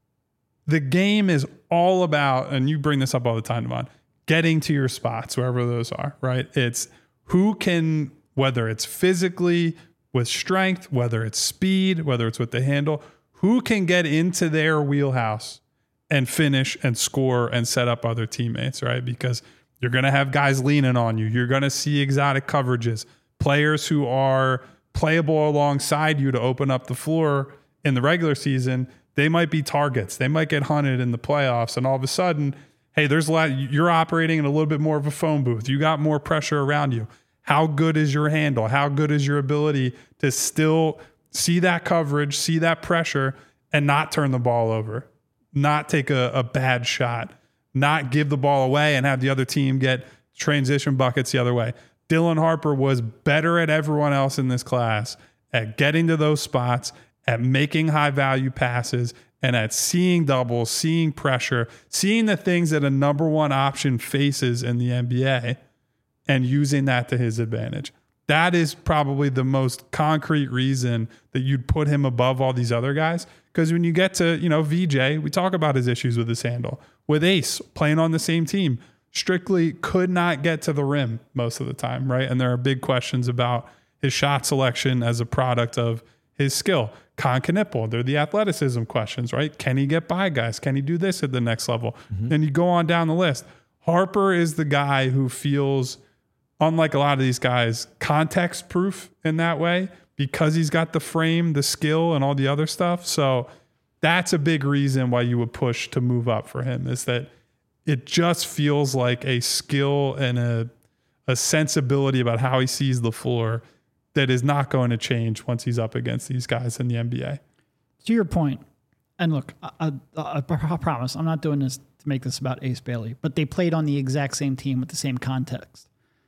S2: the game is all about, and you bring this up all the time, Devon, getting to your spots, wherever those are, right? It's who can, whether it's physically with strength, whether it's speed, whether it's with the handle, who can get into their wheelhouse and finish and score and set up other teammates, right? Because you're going to have guys leaning on you. You're going to see exotic coverages, players who are playable alongside you to open up the floor in the regular season. They might be targets. They might get hunted in the playoffs. And all of a sudden, hey, there's a lot. You're operating in a little bit more of a phone booth. You got more pressure around you. How good is your handle? How good is your ability to still see that coverage, see that pressure, and not turn the ball over, not take a bad shot, not give the ball away and have the other team get transition buckets the other way. Dylan Harper was better at everyone else in this class at getting to those spots, at making high-value passes, and at seeing doubles, seeing pressure, seeing the things that a number one option faces in the NBA and using that to his advantage. That is probably the most concrete reason that you'd put him above all these other guys. Because when you get to, VJ, we talk about his issues with his handle. With Ace, playing on the same team, strictly could not get to the rim most of the time, right? And there are big questions about his shot selection as a product of his skill. Con Knipple, they're the athleticism questions, right? Can he get by guys? Can he do this at the next level? Then you go on down the list. Harper is the guy who feels, unlike a lot of these guys, context proof in that way because he's got the frame, the skill, and all the other stuff. So that's a big reason why you would push to move up for him, is that it just feels like a skill and a sensibility about how he sees the floor that is not going to change once he's up against these guys in the NBA.
S3: To your point, and look, I promise I'm not doing this to make this about Ace Bailey, but they played on the exact same team with the same context.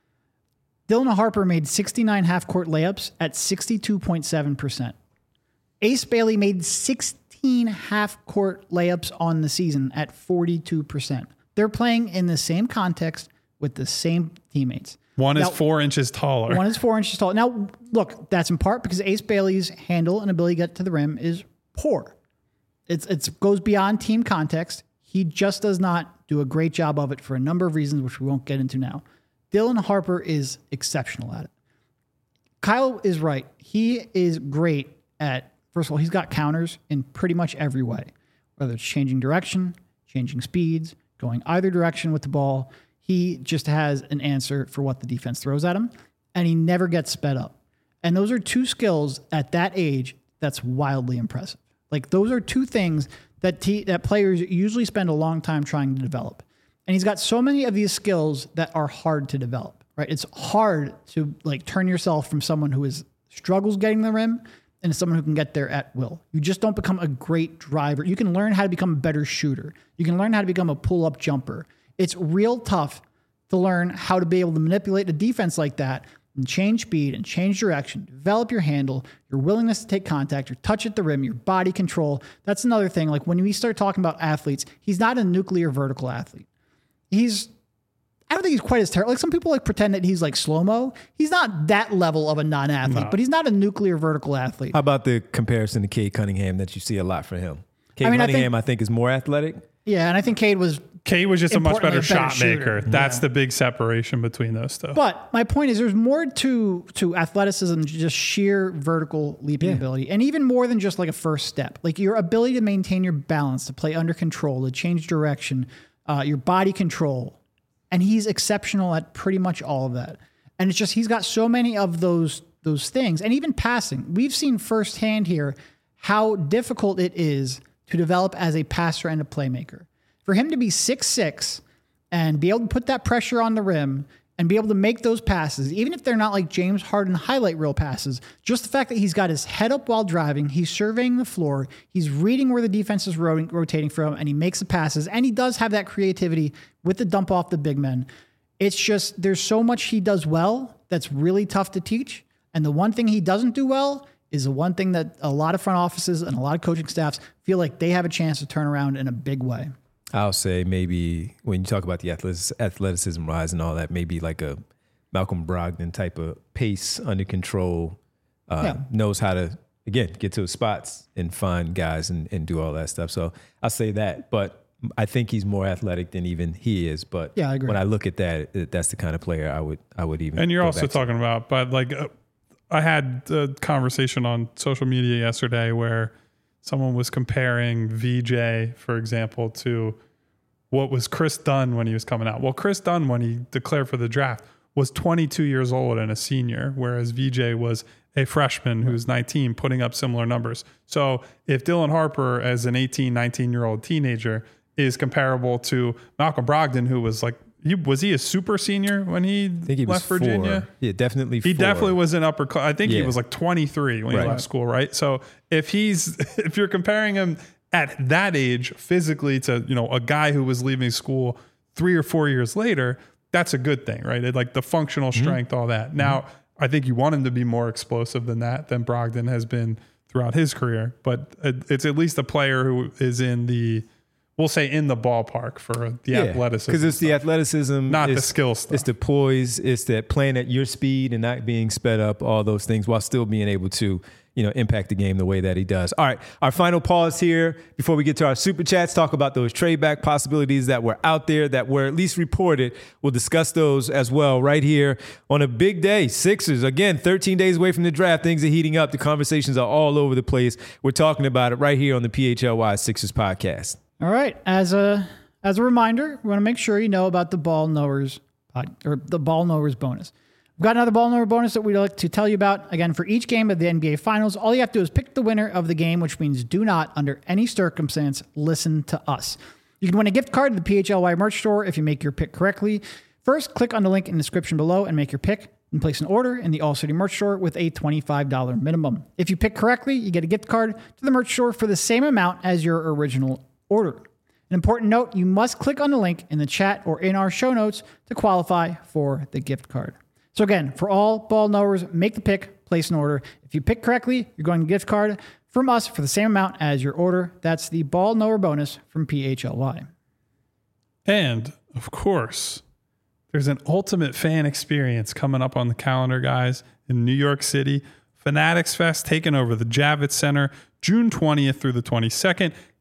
S3: Dylan Harper made 69 half-court layups at 62.7%. Ace Bailey made 16 half-court layups on the season at 42%. They're playing in the same context with the same teammates.
S2: One is 4 inches taller.
S3: One is 4 inches taller. Now, look, that's in part because Ace Bailey's handle and ability to get to the rim is poor. It goes beyond team context. He just does not do a great job of it for a number of reasons, which we won't get into now. Dylan Harper is exceptional at it. Kyle is right. He is great at, first of all, he's got counters in pretty much every way, whether it's changing direction, changing speeds, going either direction with the ball. He just has an answer for what the defense throws at him, and he never gets sped up. And those are two skills at that age that's wildly impressive. Like, those are two things that players usually spend a long time trying to develop. And he's got so many of these skills that are hard to develop, right? It's hard to like turn yourself from someone who struggles getting the rim into someone who can get there at will. You just don't become a great driver. You can learn how to become a better shooter. You can learn how to become a pull-up jumper. It's real tough to learn how to be able to manipulate a defense like that and change speed and change direction, develop your handle, your willingness to take contact, your touch at the rim, your body control. That's another thing. Like, when we start talking about athletes, he's not a nuclear vertical athlete. I don't think he's quite as terrible. Like, some people like pretend that he's like slow-mo. He's not that level of a non-athlete, but he's not a nuclear vertical athlete.
S1: How about the comparison to Cade Cunningham that you see a lot for him? Cunningham, I think, is more athletic.
S3: Yeah, and I think Cade was
S2: just a much better shot maker.
S3: Shooter.
S2: That's the big separation between those two.
S3: But my point is, there's more to athleticism than just sheer vertical leaping ability, and even more than just like a first step. Like, your ability to maintain your balance, to play under control, to change direction, your body control. And he's exceptional at pretty much all of that. And it's just, he's got so many of those things. And even passing. We've seen firsthand here how difficult it is to develop as a passer and a playmaker. For him to be 6'6" and be able to put that pressure on the rim and be able to make those passes, even if they're not like James Harden highlight reel passes, just the fact that he's got his head up while driving, he's surveying the floor, he's reading where the defense is rotating from, and he makes the passes, and he does have that creativity with the dump off the big men. It's just, there's so much he does well that's really tough to teach, and the one thing he doesn't do well is the one thing that a lot of front offices and a lot of coaching staffs feel like they have a chance to turn around in a big way.
S1: I'll say maybe when you talk about the athleticism rise and all that, maybe like a Malcolm Brogdon type of pace, under control, knows how to, again, get to his spots and find guys and do all that stuff. So I'll say that. But I think he's more athletic than even he is. But
S3: yeah, I agree.
S1: When I look at that, that's the kind of player I would even.
S2: And you're also talking about, but like I had a conversation on social media yesterday where someone was comparing VJ, for example, to what was Chris Dunn when he was coming out. Well, Chris Dunn, when he declared for the draft, was 22 years old and a senior, whereas VJ was a freshman who's 19, putting up similar numbers. So if Dylan Harper, as an 18, 19-year-old teenager, is comparable to Malcolm Brogdon, who was like, was he a super senior when he left Virginia?
S1: 4. Yeah, definitely 4.
S2: He definitely was an upper class. I think he was like 23 when he left school, right? So if you're comparing him at that age physically to, a guy who was leaving school 3 or 4 years later, that's a good thing, right? Like the functional strength, all that. Now, I think you want him to be more explosive than Brogdon has been throughout his career, but it's at least a player who is in the ballpark for the athleticism.
S1: Because it's the athleticism,
S2: not the skill stuff.
S1: It's the poise, it's that playing at your speed and not being sped up, all those things, while still being able to, impact the game the way that he does. All right, our final pause here before we get to our super chats, talk about those trade back possibilities that were out there, that were at least reported. We'll discuss those as well right here on a big day. Sixers, again, 13 days away from the draft. Things are heating up. The conversations are all over the place. We're talking about it right here on the PHLY Sixers podcast.
S3: All right. As a reminder, we want to make sure you know about the Ball Knowers the Ball Knowers bonus. We've got another Ball Knower bonus that we'd like to tell you about. Again, for each game of the NBA Finals, all you have to do is pick the winner of the game, which means do not, under any circumstance, listen to us. You can win a gift card to the PHLY merch store if you make your pick correctly. First, click on the link in the description below and make your pick, and place an order in the All City merch store with a $25 minimum. If you pick correctly, you get a gift card to the merch store for the same amount as your original order. An important note, you must click on the link in the chat or in our show notes to qualify for the gift card. So again, for all ball knowers, make the pick, place an order. If you pick correctly, you're going to get a gift card from us for the same amount as your order. That's the Ball Knower bonus from PHLY.
S2: And, of course, there's an ultimate fan experience coming up on the calendar, guys, in New York City. Fanatics Fest taking over the Javits Center June 20th through the 22nd.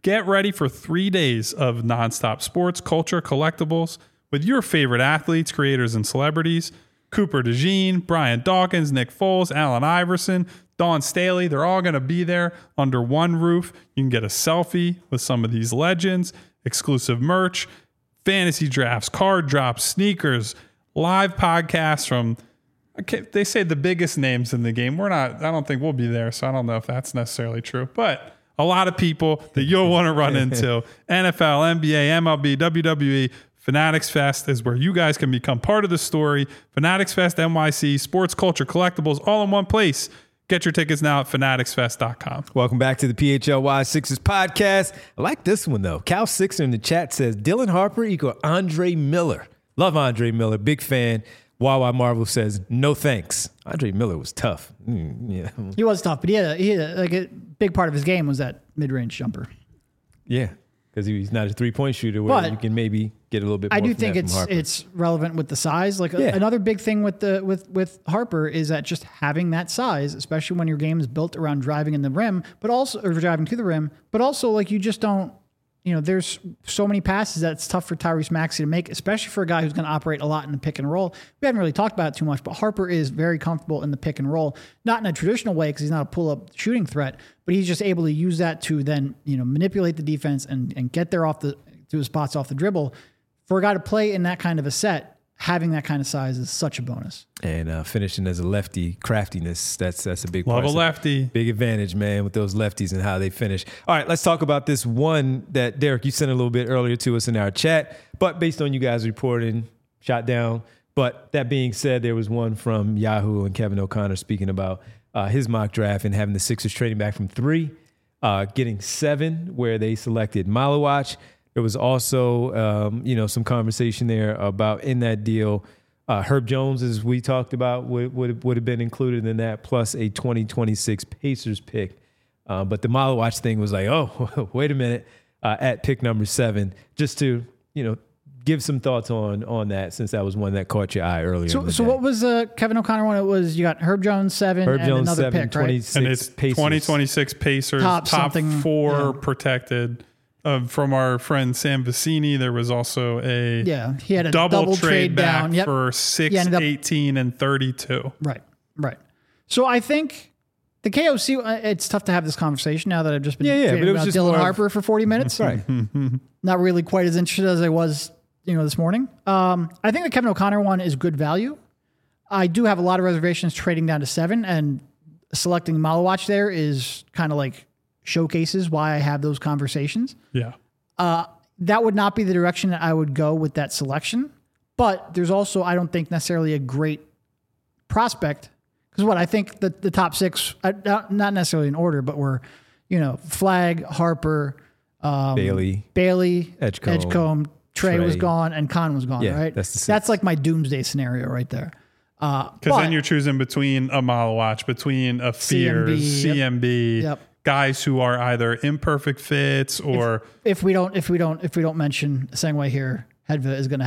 S2: Get ready for 3 days of nonstop sports, culture, collectibles with your favorite athletes, creators, and celebrities. Cooper DeJean, Brian Dawkins, Nick Foles, Allen Iverson, Dawn Staley. They're all going to be there under one roof. You can get a selfie with some of these legends, exclusive merch, fantasy drafts, card drops, sneakers, live podcasts from, they say the biggest names in the game. I don't think we'll be there, so I don't know if that's necessarily true. But a lot of people that you'll want to run into. NFL, NBA, MLB, WWE. Fanatics Fest is where you guys can become part of the story. Fanatics Fest NYC, sports, culture, collectibles, all in one place. Get your tickets now at fanaticsfest.com.
S1: Welcome back to the PHLY Sixers podcast. I like this one, though. Cal Sixer in the chat says, Dylan Harper equal Andre Miller. Love Andre Miller. Big fan. Wawa Marvel says, no thanks. Andre Miller was tough. Yeah.
S3: He was tough, but he had like a big part of his game was that mid-range jumper.
S1: Yeah, because he's not a three-point shooter where you can maybe get a little bit more.
S3: I do think it's relevant with the size. Like another big thing with Harper is that just having that size, especially when your game is built around driving in the rim, or driving to the rim, but also like you just don't. There's so many passes that it's tough for Tyrese Maxey to make, especially for a guy who's going to operate a lot in the pick and roll. We haven't really talked about it too much, but Harper is very comfortable in the pick and roll, not in a traditional way because he's not a pull-up shooting threat, but he's just able to use that to then manipulate the defense and get there to his spots off the dribble. For a guy to play in that kind of a set, having that kind of size is such a bonus.
S1: And finishing as a lefty, craftiness, that's a big part.
S2: Love a lefty.
S1: Big advantage, man, with those lefties and how they finish. All right, let's talk about this one that, Derek, you sent a little bit earlier to us in our chat, but based on you guys reporting, shot down. But that being said, there was one from Yahoo and Kevin O'Connor speaking about his mock draft and having the Sixers trading back from 3, getting 7, where they selected Malawach. There was also, some conversation there about in that deal, Herb Jones, as we talked about, would have been included in that, plus a 2026 Pacers pick. But the Malawach thing was like, oh, wait a minute, at pick number 7, just to, give some thoughts on that, since that was one that caught your eye earlier.
S3: So what was Kevin O'Connor one? It was, you got Herb Jones 7 and another
S1: 7,
S3: pick, right?
S2: And it's
S1: Pacers.
S2: 2026 Pacers, top 4 protected. From our friend Sam Vicini, there was also
S3: he had a
S2: double trade back
S3: down
S2: for 6, 18, and 32.
S3: Right. So I think the KOC, it's tough to have this conversation now that I've just been
S1: but it was
S3: about
S1: just
S3: Dylan Harper for 40 minutes.
S1: Right.
S3: Not really quite as interested as I was, this morning. I think the Kevin O'Connor one is good value. I do have a lot of reservations trading down to 7, and selecting Malawach there is kind of like showcases why I have those conversations.
S2: Yeah.
S3: That would not be the direction that I would go with that selection. But there's also, I don't think necessarily a great prospect. Because I think the top 6, not necessarily in order, but we're, Flag, Harper,
S1: Bailey,
S3: Edgecombe, Trey was gone, and Khan was gone, right?
S1: That's
S3: like my doomsday scenario right there.
S2: Because then you're choosing between a Malawach, between a Fears, CMB, guys who are either imperfect fits or
S3: if we don't mention Sengway here, Hedva is going to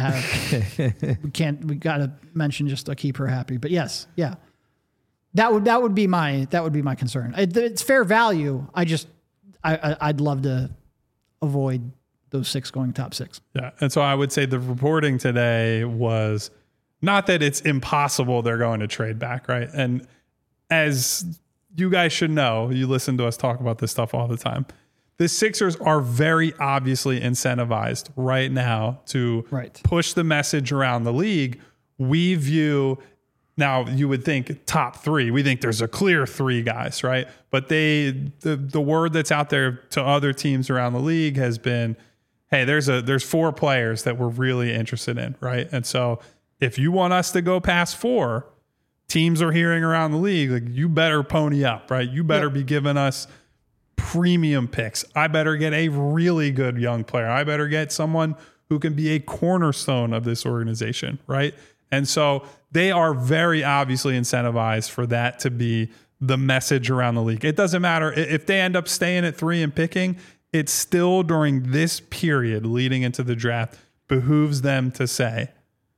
S3: have we got to mention just to keep her happy. But yes, that would be my concern. It's fair value. I'd love to avoid those 6 going top 6.
S2: Yeah, and so I would say the reporting today was not that it's impossible they're going to trade back, right? And as you guys should know, you listen to us talk about this stuff all the time. The Sixers are very obviously incentivized right now to push the message around the league. We view, now you would think top 3. We think there's a clear 3 guys, right? But the word that's out there to other teams around the league has been, hey, there's 4 players that we're really interested in, right? And so if you want us to go past 4, teams are hearing around the league, like, you better pony up, right? You better be giving us premium picks. I better get a really good young player. I better get someone who can be a cornerstone of this organization, right? And so they are very obviously incentivized for that to be the message around the league. It doesn't matter if they end up staying at 3 and picking, it's still during this period leading into the draft behooves them to say,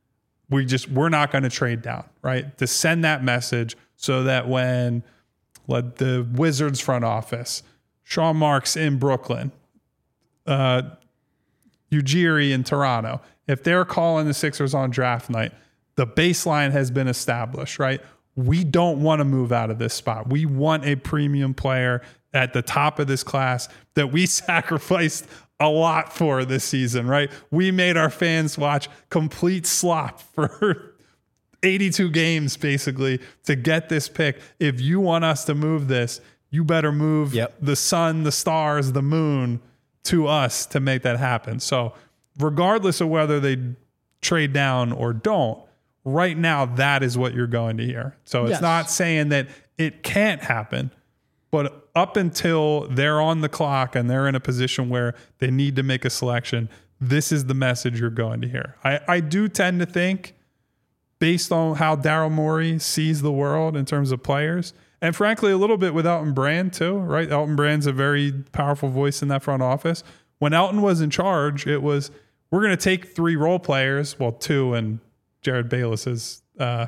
S2: we're not going to trade down, right? To send that message so that when the Wizards front office, Sean Marks in Brooklyn, Ujiri in Toronto, if they're calling the Sixers on draft night, the baseline has been established, right? We don't want to move out of this spot. We want a premium player at the top of this class that we sacrificed a lot for this season, right? We made our fans watch complete slop for 82 games basically to get this pick. If you want us to move this, you better move the sun, the stars, the moon to us to make that happen. So regardless of whether they trade down or don't, right now, that is what you're going to hear. So it's not saying that it can't happen, but up until they're on the clock and they're in a position where they need to make a selection, this is the message you're going to hear. I do tend to think, based on how Daryl Morey sees the world in terms of players, and frankly, a little bit with Elton Brand too, right? Elton Brand's a very powerful voice in that front office. When Elton was in charge, it was, we're going to take 3 role players, well, 2 and Jared Bayless's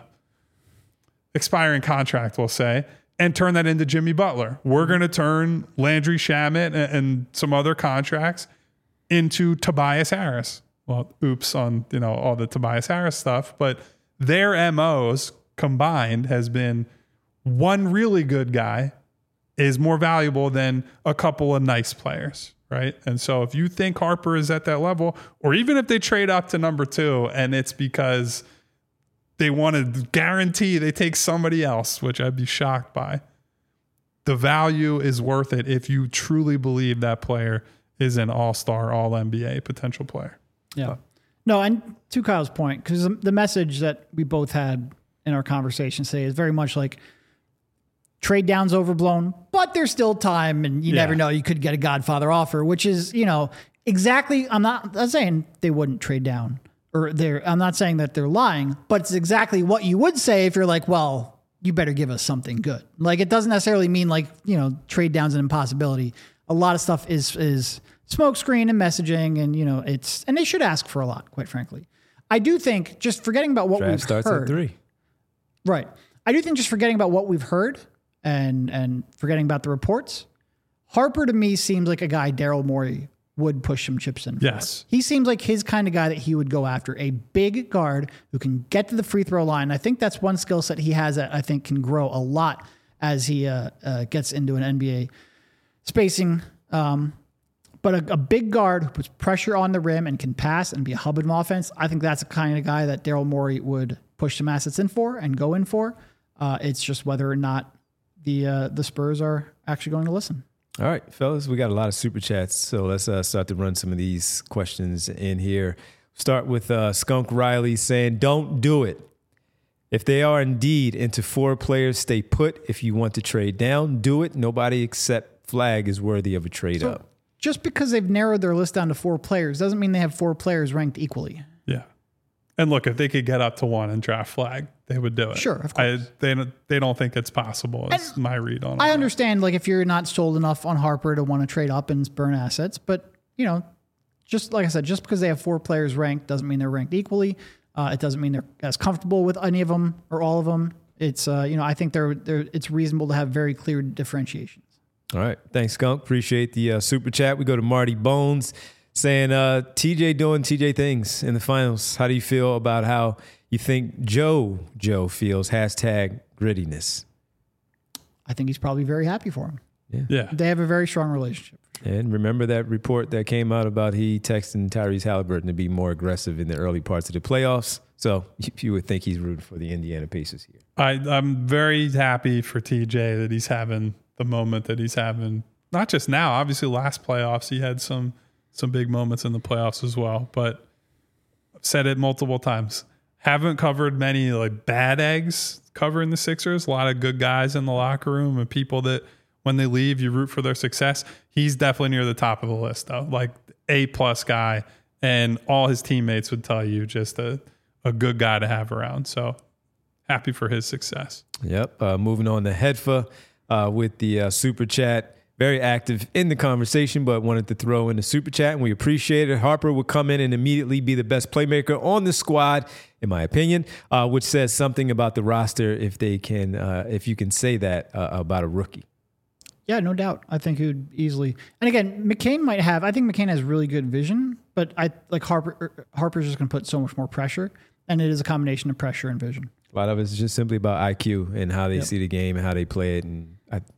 S2: expiring contract, we'll say, and turn that into Jimmy Butler. We're going to turn Landry Shamet and some other contracts into Tobias Harris. Well, oops on, all the Tobias Harris stuff, but their MOs combined has been one really good guy is more valuable than a couple of nice players, right? And so if you think Harper is at that level, or even if they trade up to number 2 and it's because they want to guarantee they take somebody else, which I'd be shocked by, the value is worth it if you truly believe that player is an all-star, all-NBA potential player.
S3: Yeah. No, and to Kyle's point, because the message that we both had in our conversation today is very much like trade down's overblown, but there's still time and you never know. You could get a Godfather offer, which is, exactly, I'm not saying they wouldn't trade down I'm not saying that they're lying, but it's exactly what you would say if you're like, well, you better give us something good. Like, it doesn't necessarily mean like, trade down's an impossibility. A lot of stuff is smokescreen and messaging and, and they should ask for a lot, quite frankly. I do think just forgetting about what
S1: Draft
S3: we've
S1: starts
S3: heard.
S1: at 3.
S3: Right. I do think just forgetting about what we've heard and forgetting about the reports, Harper to me seems like a guy Daryl Morey would push some chips in for.
S2: Yes.
S3: He seems like his kind of guy that he would go after, a big guard who can get to the free throw line. I think that's one skill set he has that I think can grow a lot as he gets into an NBA spacing. But a big guard who puts pressure on the rim and can pass and be a hub of offense, I think that's the kind of guy that Daryl Morey would push some assets in for and go in for. It's just whether or not the Spurs are actually going to listen.
S1: All right, fellas, we got a lot of super chats, so let's start to run some of these questions in here. Start with Skunk Riley saying, don't do it. If they are indeed into 4 players, stay put. If you want to trade down, do it. Nobody except Flag is worthy of a trade up.
S3: Just because they've narrowed their list down to 4 players doesn't mean they have 4 players ranked equally.
S2: Yeah. And look, if they could get up to 1 and draft Flag, they would do it.
S3: Sure, of course.
S2: They don't think it's possible. Is my read on it.
S3: I understand, like, if you're not sold enough on Harper to want to trade up and burn assets, but just like I said, just because they have 4 players ranked doesn't mean they're ranked equally. It doesn't mean they're as comfortable with any of them or all of them. It's I think it's reasonable to have very clear differentiations.
S1: All right, thanks, Skunk. Appreciate the super chat. We go to Marty Bones saying, TJ doing TJ things in the finals. How do you feel about how you think Joe feels? Hashtag grittiness.
S3: I think he's probably very happy for him.
S2: Yeah.
S3: They have a very strong relationship.
S1: And remember that report that came out about he texting Tyrese Halliburton to be more aggressive in the early parts of the playoffs. So you would think he's rooting for the Indiana Pacers here.
S2: I'm very happy for TJ that he's having the moment that he's having. Not just now, obviously last playoffs, he had some big moments in the playoffs as well, but I've said it multiple times. Haven't covered many like bad eggs covering the Sixers. A lot of good guys in the locker room and people that when they leave, you root for their success. He's definitely near the top of the list though, like A+ guy, and all his teammates would tell you just a good guy to have around. So happy for his success.
S1: Yep. Moving on to Hedfa with the super chat. Very active in the conversation, but wanted to throw in the super chat, and we appreciate it. Harper would come in and immediately be the best playmaker on the squad, in my opinion, which says something about the roster if you can say that about a rookie.
S3: Yeah, no doubt. I think he would easily. And again, I think McCain has really good vision, but I like Harper's just going to put so much more pressure, and it is a combination of pressure and vision.
S1: A lot of it's just simply about IQ and how they see the game and how they play it. And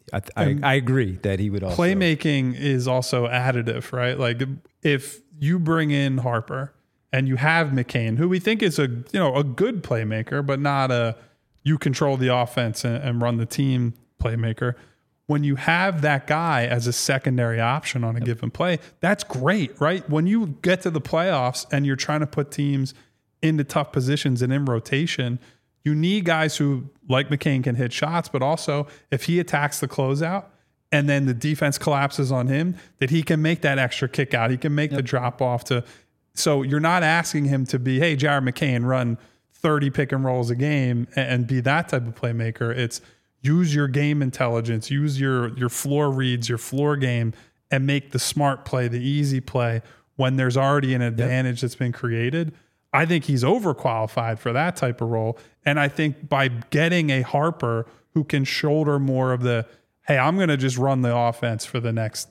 S1: I agree that he would also.
S2: Playmaking is also additive, right? Like if you bring in Harper and you have McCain, who we think is a good playmaker, but not a you control the offense and run the team playmaker. When you have that guy as a secondary option on a given play, that's great, right? When you get to the playoffs and you're trying to put teams into tough positions and in rotation, you need guys who, like McCain, can hit shots, but also if he attacks the closeout and then the defense collapses on him, that he can make that extra kick out. He can make the drop off so you're not asking him to be, hey, Jared McCain, run 30 pick and rolls a game and be that type of playmaker. It's use your game intelligence, use your floor reads, your floor game, and make the smart play, the easy play when there's already an advantage that's been created. I think he's overqualified for that type of role. And I think by getting a Harper who can shoulder more of the, hey, I'm going to just run the offense for the next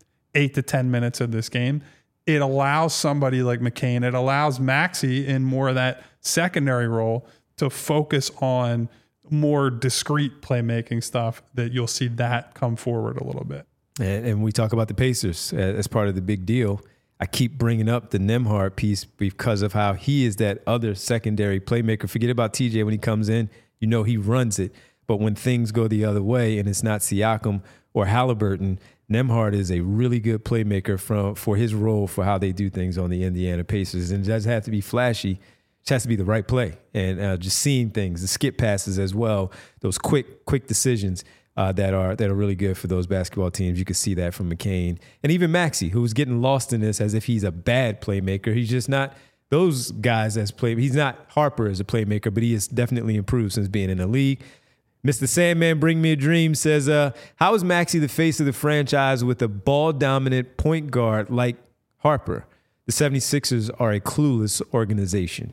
S2: 8 to 10 minutes of this game, it allows somebody like McCain, it allows Maxey in more of that secondary role to focus on more discrete playmaking stuff, that you'll see that come forward a little bit.
S1: And we talk about the Pacers as part of the big deal. I keep bringing up the Nembhard piece because of how he is that other secondary playmaker. Forget about TJ when he comes in, he runs it. But when things go the other way and it's not Siakam or Halliburton, Nembhard is a really good playmaker for his role for how they do things on the Indiana Pacers. And it doesn't have to be flashy. It has to be the right play, and just seeing things, the skip passes as well, those quick decisions that are really good for those basketball teams. You could see that from McCain and even Maxey, who's getting lost in this as if he's a bad playmaker. He's just not those guys as play. He's not Harper as a playmaker, but he has definitely improved since being in the league. Mr. Sandman, Bring Me a Dream says, how is Maxey the face of the franchise with a ball-dominant point guard like Harper? The 76ers are a clueless organization.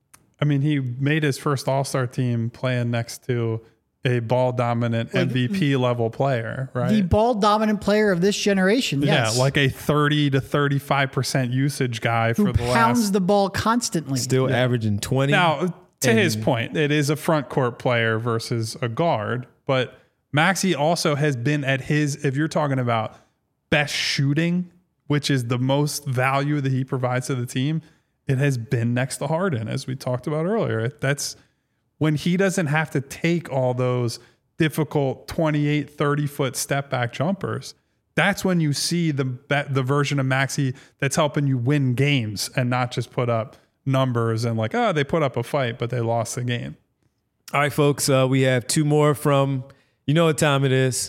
S2: I mean, he made his first All-Star team playing next to a ball-dominant MVP level player, right?
S3: The ball-dominant player of this generation, yes.
S2: Yeah, like a 30 to 35% usage guy
S3: who
S2: for the
S3: pounds the ball constantly.
S1: Still averaging 20.
S2: Now, to his point, it is a front court player versus a guard, but Maxey also has been at his, if you're talking about best shooting, which is the most value that he provides to the team, it has been next to Harden, as we talked about earlier. That's when he doesn't have to take all those difficult 28, 30-foot step-back jumpers. That's when you see the version of Maxey that's helping you win games and not just put up numbers and they put up a fight, but they lost the game.
S1: All right, folks, we have two more from, what time it is.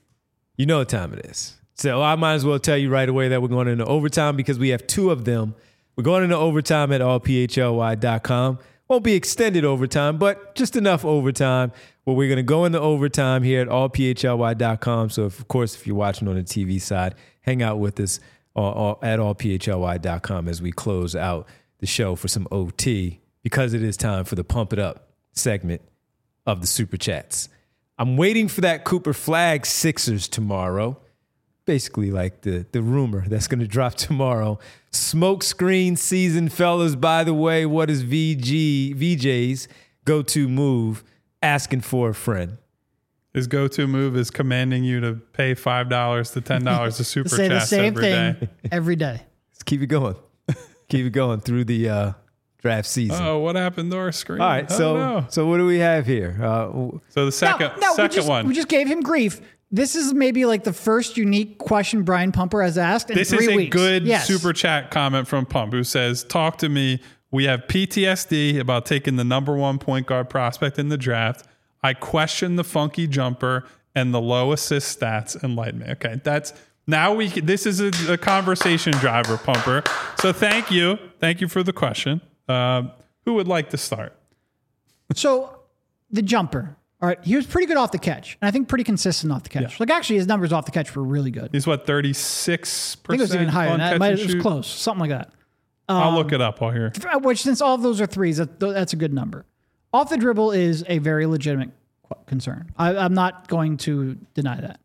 S1: So I might as well tell you right away that we're going into overtime because we have two of them. We're going into overtime at allphly.com. Won't be extended overtime, but just enough overtime where we're going to go into overtime here at allphly.com. So, of course, if you're watching on the TV side, hang out with us at allphly.com as we close out the show for some OT because it is time for the Pump It Up segment of the Super Chats. I'm waiting for that Cooper Flag Sixers tomorrow. Basically like the rumor that's going to drop tomorrow. Smoke screen season, fellas. By the way, what is VJ's go-to move? Asking for a friend.
S2: His go-to move is commanding you to pay $5 to $10 a Super
S3: Say
S2: Chat
S3: the same
S2: every
S3: thing
S2: day.
S3: every day.
S1: Let's keep it going. Keep it going through the draft season.
S2: Oh, what happened to our screen?
S1: All right, so what do we have here?
S2: So the second one.
S3: We just gave him grief. This is maybe like the first unique question Brian Pumper has asked in 3 weeks.
S2: This is a good Super Chat comment from Pump, who says, talk to me. We have PTSD about taking the number one point guard prospect in the draft. I question the funky jumper and the low assist stats. Enlighten me. Okay, this is a conversation driver, Pumper. So thank you. Thank you for the question. Who would like to start?
S3: So the jumper. All right, he was pretty good off the catch, and I think pretty consistent off the catch.
S2: Yeah.
S3: Like actually, his numbers off the catch were really good.
S2: He's what, 36%?
S3: I think it was even higher than that. It was close, something like that.
S2: I'll look it up while here.
S3: Which, since all of those are threes, that's a good number. Off the dribble is a very legitimate concern. I'm not going to deny that.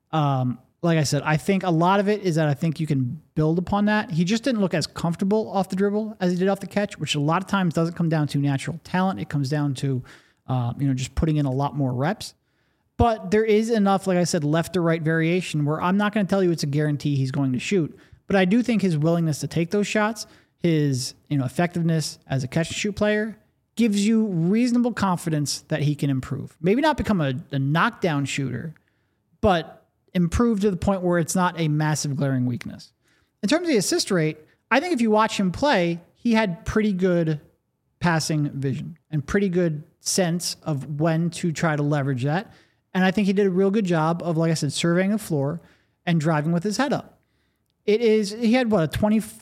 S3: Like I said, I think a lot of it is that I think you can build upon that. He just didn't look as comfortable off the dribble as he did off the catch, which a lot of times doesn't come down to natural talent. It comes down to, just putting in a lot more reps. But there is enough, like I said, left to right variation where I'm not going to tell you it's a guarantee he's going to shoot. But I do think his willingness to take those shots, his effectiveness as a catch and shoot player, gives you reasonable confidence that he can improve. Maybe not become a knockdown shooter, but improve to the point where it's not a massive glaring weakness. In terms of the assist rate, I think if you watch him play, he had pretty good passing vision and pretty good sense of when to try to leverage that. And I think he did a real good job of, like I said, surveying the floor and driving with his head up. He had a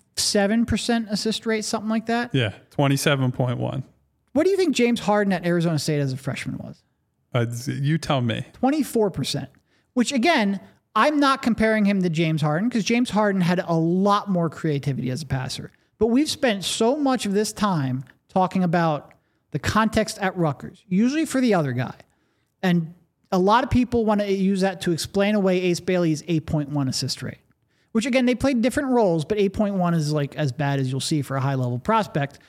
S3: 27% assist rate, something like that?
S2: Yeah, 27.1.
S3: What do you think James Harden at Arizona State as a freshman was?
S2: You tell me.
S3: 24%. Which, again, I'm not comparing him to James Harden because James Harden had a lot more creativity as a passer. But we've spent so much of this time talking about the context at Rutgers, usually for the other guy. And a lot of people want to use that to explain away Ace Bailey's 8.1 assist rate, which, again, they played different roles, but 8.1 is like as bad as you'll see for a high-level prospect.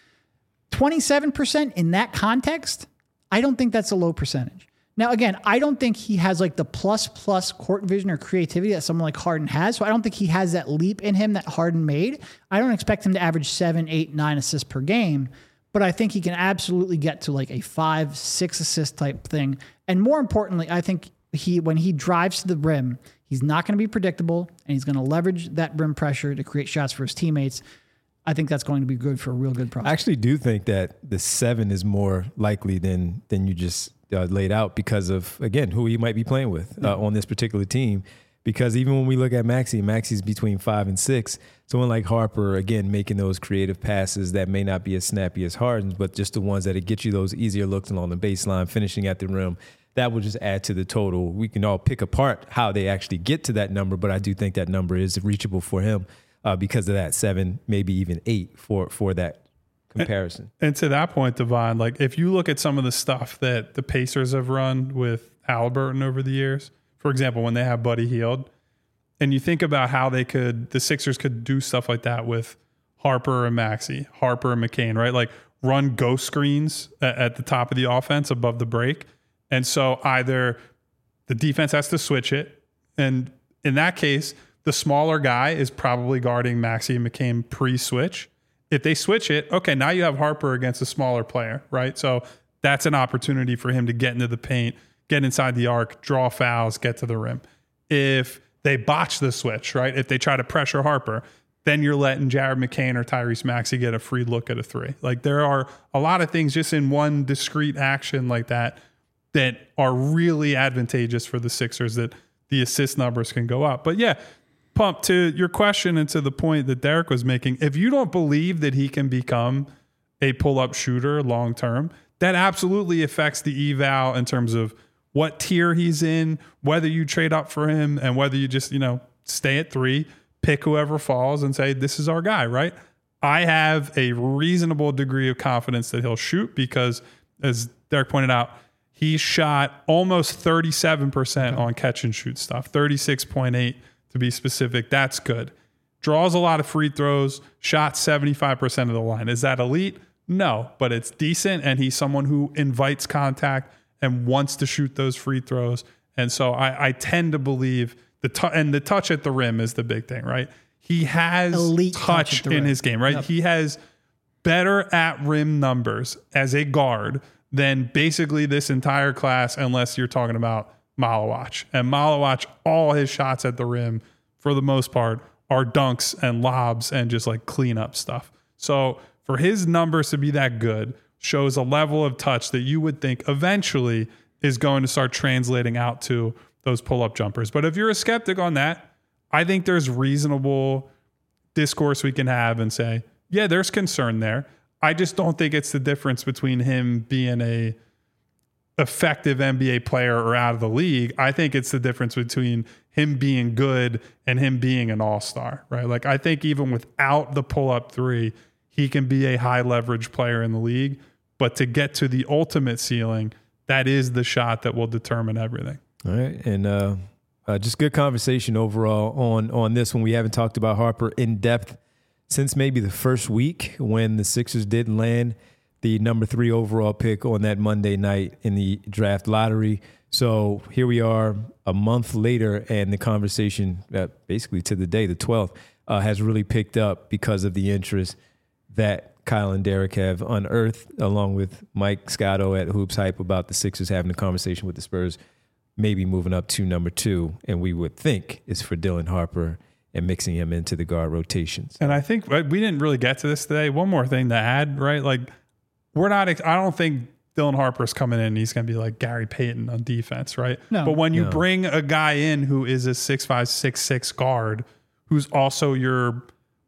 S3: 27% in that context, I don't think that's a low percentage. Now, again, I don't think he has like the plus court vision or creativity that someone like Harden has. So I don't think he has that leap in him that Harden made. I don't expect him to average 7, 8, 9 assists per game, but I think he can absolutely get to like a 5, 6 assist type thing. And more importantly, I think when he drives to the rim, he's not going to be predictable and he's going to leverage that rim pressure to create shots for his teammates. I think that's going to be good for a real good prospect.
S1: I actually do think that the 7 is more likely than you just laid out because of, again, who he might be playing with on this particular team. Because even when we look at Maxi's between 5 and 6. Someone like Harper, again, making those creative passes that may not be as snappy as Harden's, but just the ones that get you those easier looks along the baseline, finishing at the rim. That will just add to the total. We can all pick apart how they actually get to that number, but I do think that number is reachable for him because of that 7, maybe even 8 for that comparison.
S2: And to that point, Devon, like if you look at some of the stuff that the Pacers have run with Halliburton over the years, for example, when they have Buddy Hield, and you think about how the Sixers could do stuff like that with Harper and Maxey, Harper and McCain, right? Like run ghost screens at the top of the offense above the break. And so either the defense has to switch it, and in that case, the smaller guy is probably guarding Maxey and McCain pre-switch. If they switch it, okay, now you have Harper against a smaller player, right? So that's an opportunity for him to get into the paint, get inside the arc, draw fouls, get to the rim. If they botch the switch, right? If they try to pressure Harper, then you're letting Jared McCain or Tyrese Maxey get a free look at a 3. Like there are a lot of things just in one discrete action like that are really advantageous for the Sixers that the assist numbers can go up. But yeah, Pump, to your question and to the point that Derek was making, if you don't believe that he can become a pull-up shooter long-term, that absolutely affects the eval in terms of what tier he's in, whether you trade up for him and whether you just, stay at 3, pick whoever falls and say, this is our guy, right? I have a reasonable degree of confidence that he'll shoot because, as Derek pointed out, he shot almost 37% on catch and shoot stuff, 36.8 to be specific. That's good. Draws a lot of free throws, shot 75% of the line. Is that elite? No, but it's decent, and he's someone who invites contact and wants to shoot those free throws. And so I tend to believe the touch at the rim is the big thing, right? He has elite touch in his game, right? Yep. He has better at rim numbers as a guard than basically this entire class, unless you're talking about Malawach. And Malawach, all his shots at the rim, for the most part, are dunks and lobs and just like cleanup stuff. So for his numbers to be that good shows a level of touch that you would think eventually is going to start translating out to those pull-up jumpers. But if you're a skeptic on that, I think there's reasonable discourse we can have and say, yeah, there's concern there. I just don't think it's the difference between him being a effective NBA player or out of the league. I think it's the difference between him being good and him being an all-star, right? Like I think even without the pull-up 3, he can be a high leverage player in the league, but to get to the ultimate ceiling, that is the shot that will determine everything.
S1: All right. And Just good conversation overall on this one. We haven't talked about Harper in depth since maybe the first week when the Sixers did land the number 3 overall pick on that Monday night in the draft lottery. So here we are a month later, and the conversation, basically to the day, the 12th, has really picked up because of the interest that Kyle and Derek have unearthed, along with Mike Scotto at Hoops Hype, about the Sixers having a conversation with the Spurs, maybe moving up to number 2, and we would think is for Dylan Harper and mixing him into the guard rotations.
S2: And I think we didn't really get to this today. One more thing to add, right? Like, I don't think Dylan Harper's coming in and he's going to be like Gary Payton on defense, right?
S3: No.
S2: But when you bring a guy in who is a 6'5", 6'6" guard, who's also your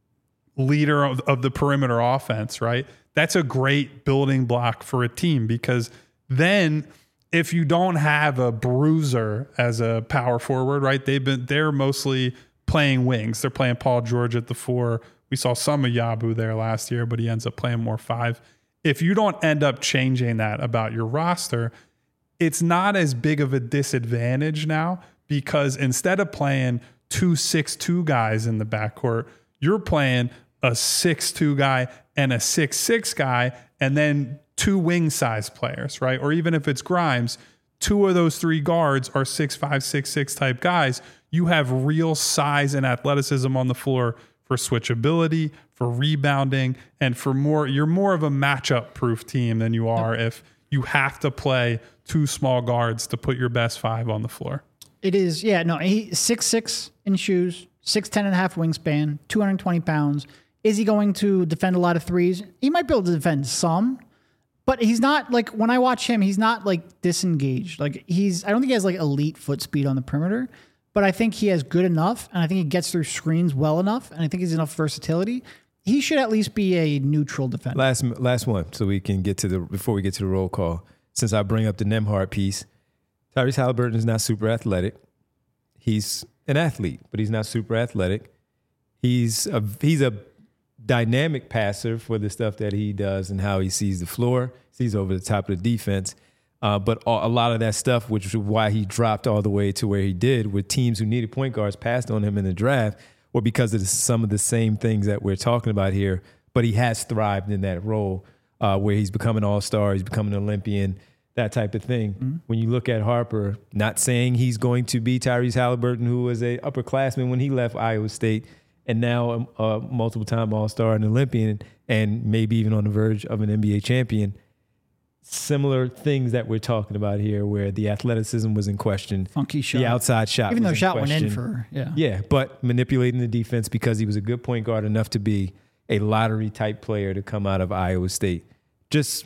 S2: leader of the perimeter offense, right? That's a great building block for a team, because then if you don't have a bruiser as a power forward, right? They're mostly playing wings. They're playing Paul George at the 4. We saw some of Yabu there last year, but he ends up playing more 5. If you don't end up changing that about your roster, it's not as big of a disadvantage now, because instead of playing 2 6'2" guys in the backcourt, you're playing a 6'2" guy and a 6'6" guy, and then 2 wing size players, right? Or even if it's Grimes, 2 of those 3 guards are 6'5", 6'6" type guys. You have real size and athleticism on the floor for switchability, for rebounding, and for more. You're more of a matchup proof team than you are if you have to play 2 small guards to put your best 5 on the floor.
S3: It is, yeah, no, he's 6'6" in shoes, 6'10" and a half wingspan, 220 pounds. Is he going to defend a lot of threes? He might be able to defend some, but he's not, like, when I watch him, he's not like disengaged. Like, I don't think he has like elite foot speed on the perimeter, but I think he has good enough, and I think he gets through screens well enough, and I think he's enough versatility. He should at least be a neutral defender.
S1: Last one, so we can get to before we get to the roll call. Since I bring up the Nembhard piece, Tyrese Halliburton is not super athletic. He's an athlete, but he's not super athletic. He's a dynamic passer for the stuff that he does and how he sees the floor, sees over the top of the defense. But a lot of that stuff, which is why he dropped all the way to where he did, with teams who needed point guards passed on him in the draft, or because of some of the same things that we're talking about here. But he has thrived in that role where he's become an all-star, he's become an Olympian, that type of thing. Mm-hmm. When you look at Harper, not saying he's going to be Tyrese Halliburton, who was a upperclassman when he left Iowa State, and now a multiple-time all-star and Olympian, and maybe even on the verge of an NBA champion. Similar things that we're talking about here, where the athleticism was in question,
S3: funky shot,
S1: the outside shot,
S3: even though
S1: was
S3: shot
S1: in
S3: went in for
S1: but manipulating the defense because he was a good point guard enough to be a lottery type player to come out of Iowa State. Just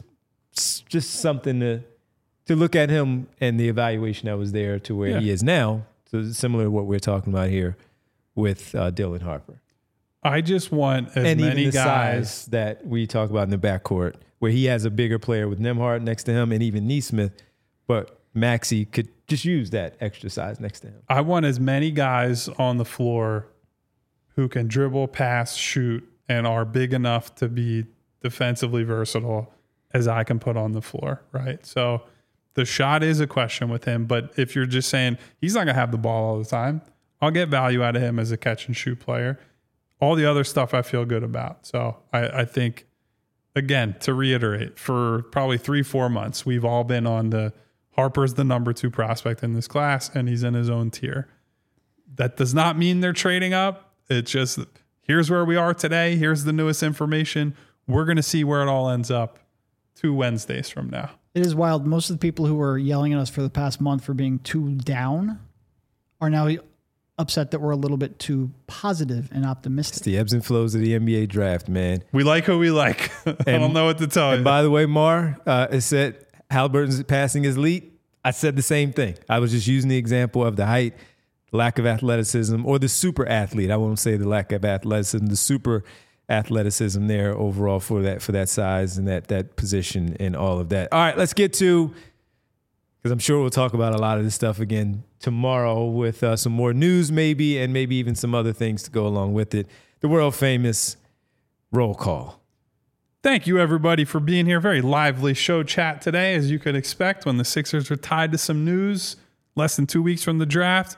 S1: something to look at him and the evaluation that was there to where he is now. So similar to what we're talking about here with Dylan Harper.
S2: I just want as
S1: and
S2: many
S1: even the
S2: guys
S1: size that we talk about in the backcourt, where he has a bigger player with Nembhard next to him and even Nesmith, but Maxey could just use that extra size next to him.
S2: I want as many guys on the floor who can dribble, pass, shoot, and are big enough to be defensively versatile as I can put on the floor, right? So the shot is a question with him, but if you're just saying he's not going to have the ball all the time, I'll get value out of him as a catch and shoot player. All the other stuff I feel good about. So I think, again, to reiterate, for probably 3-4 months, we've all been on the Harper's the number 2 prospect in this class, and he's in his own tier. That does not mean they're trading up. It's just, here's where we are today. Here's the newest information. We're going to see where it all ends up 2 Wednesdays from now.
S3: It is wild. Most of the people who were yelling at us for the past month for being too down are now upset that we're a little bit too positive and optimistic.
S1: It's the ebbs and flows of the NBA draft, man.
S2: We like who we like. I don't know what to tell you.
S1: And by the way, Mar, it said Halliburton's passing is elite. I said the same thing. I was just using the example of the height, lack of athleticism, or the super athlete. I won't say the lack of athleticism, the super athleticism there overall for that size and that position and all of that. All right, let's get to, because I'm sure we'll talk about a lot of this stuff again tomorrow with some more news maybe, and maybe even some other things to go along with it. The world famous roll call.
S2: Thank you, everybody, for being here. Very lively show chat today, as you could expect when the Sixers are tied to some news less than 2 weeks from the draft.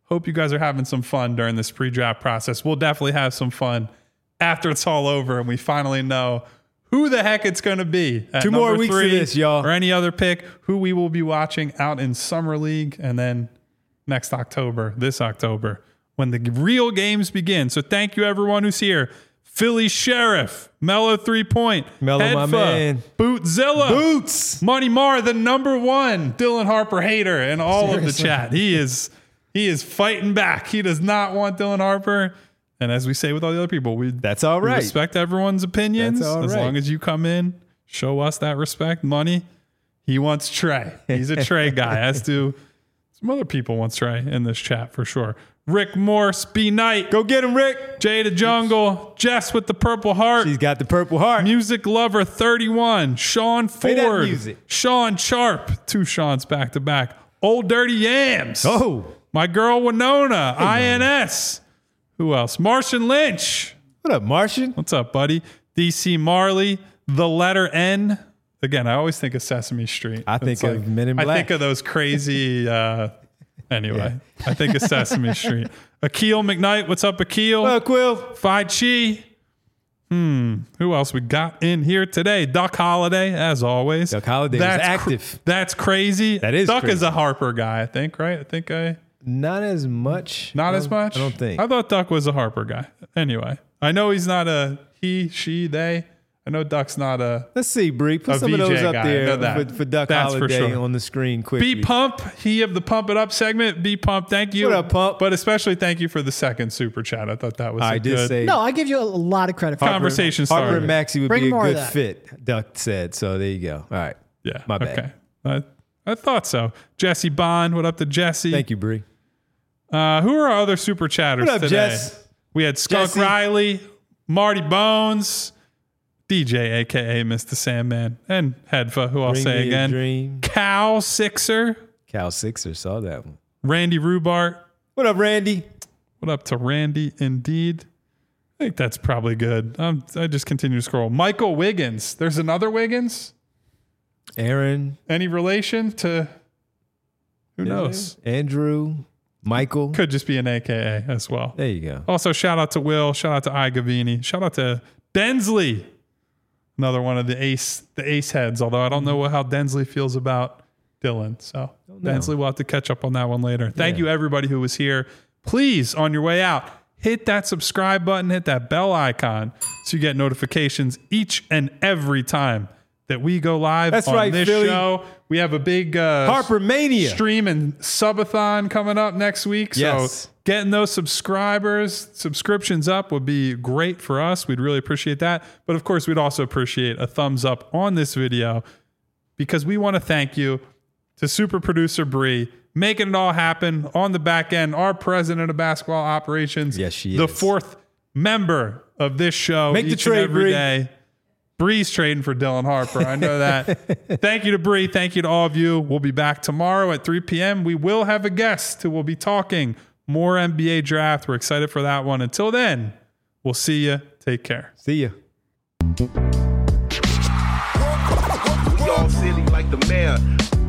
S2: Hope you guys are having some fun during this pre-draft process. We'll definitely have some fun after it's all over and we finally know who the heck it's going to be. At
S1: 2 more weeks of this, y'all.
S2: Or any other pick, who we will be watching out in Summer League. And then this October, when the real games begin. So thank you, everyone who's here. Philly Sheriff, Mellow 3-Point,
S1: Mellow, my man.
S2: Bootzilla,
S1: Boots.
S2: Money Mar, the number one Dylan Harper hater in all of the chat. He is fighting back. He does not want Dylan Harper. And as we say with all the other people,
S1: That's all
S2: we
S1: right.
S2: respect everyone's opinions.
S1: That's all
S2: as
S1: right.
S2: long as you come in, show us that respect. Money, he wants Trey. He's a Trey guy, as do some other people want Trey in this chat for sure. Rick Morse, B Knight,
S1: Go get him, Rick.
S2: Jay the Jungle, Jess with the purple heart,
S1: She's got the purple heart.
S2: Music Lover 31, Sean
S1: Play that
S2: Ford,
S1: music.
S2: Sean Sharp, 2 Sean's back to back, Old Dirty Yams,
S1: Oh,
S2: my girl Winona, INS, who else? Martian Lynch,
S1: what up, Martian?
S2: what's up, buddy? DC Marley, the letter N. Again, I always think of Sesame Street.
S1: I think of Men in
S2: I
S1: Black.
S2: think of those crazy. Anyway, I think of Sesame Street. Akil McKnight, what's up, Akil?
S1: What up, Quill?
S2: Phi Chi. Who else we got in here today? Duck Holiday, as always.
S1: Duck Holiday was active.
S2: That's crazy.
S1: That is
S2: Duck
S1: crazy.
S2: is a Harper guy, I think, right?
S1: Not as much.
S2: Not as much?
S1: I don't think.
S2: I thought Duck was a Harper guy. Anyway, I know he's not a he, she, they. I know Duck's not a
S1: Let's see, Bree. Put
S2: A
S1: some of those
S2: VJ
S1: up
S2: guy. I know
S1: there
S2: that.
S1: for Duck
S2: That's for
S1: Holiday
S2: sure.
S1: on the screen quickly.
S2: B Pump, he of the Pump It Up segment. B Pump, thank you.
S1: What up, Pump?
S2: But especially thank you for the second super chat. I thought that was
S1: I
S2: a
S1: did
S2: good
S1: say
S3: No, I give you a lot of credit for
S2: conversation
S1: Harper
S2: starter.
S1: and Maxie would
S3: Bring
S1: be a
S3: more of
S1: good
S3: that.
S1: fit, Duck said. So there you go. All right.
S2: Yeah.
S1: My bad.
S2: Okay. I thought so. Jesse Bond, what up to Jesse?
S1: Thank you, Bree.
S2: Who are our other super chatters
S1: What up,
S2: today?
S1: Jess?
S2: We had Skunk
S1: Jesse.
S2: Riley, Marty Bones, DJ, aka Mr. Sandman, and Hedva, who I'll
S1: Bring
S2: say
S1: me a
S2: again.
S1: dream.
S2: Cal Sixer,
S1: Cal Sixer saw that one.
S2: Randy Rubart.
S1: What up, Randy?
S2: What up to Randy? Indeed. I think that's probably good. I just continue to scroll. Michael Wiggins. There's another Wiggins.
S1: Aaron.
S2: Any relation to? Who knows?
S1: Andrew. Michael.
S2: Could just be an AKA as well.
S1: There you go.
S2: Also, shout out to Will. Shout out to I Gavini. Shout out to Densley. Another one of the ace heads. Although I don't know how Densley feels about Dylan. So Densley will have to catch up on that one later. Thank you everybody who was here. Please, on your way out, hit that subscribe button, hit that bell icon so you get notifications each and every time that we go live
S1: That's
S2: on
S1: right,
S2: this
S1: Philly.
S2: show. We have a big
S1: Harper Mania.
S2: stream and subathon coming up next week.
S1: Yes.
S2: So getting those subscriptions up would be great for us. We'd really appreciate that. But of course, we'd also appreciate a thumbs up on this video because we want to thank you to super producer Bree, making it all happen on the back end. Our president of basketball operations.
S1: Yes, she
S2: the
S1: is.
S2: 4th member of this show.
S1: Make the
S2: each and
S1: trade,
S2: every
S1: Bree.
S2: day. Bree's trading for Dylan Harper. I know that. Thank you to Bree. Thank you to all of you. We'll be back tomorrow at 3 p.m. We will have a guest who will be talking more NBA draft. We're excited for that one. Until then, we'll see you. Take care.
S1: See ya.
S4: We all silly like the mayor.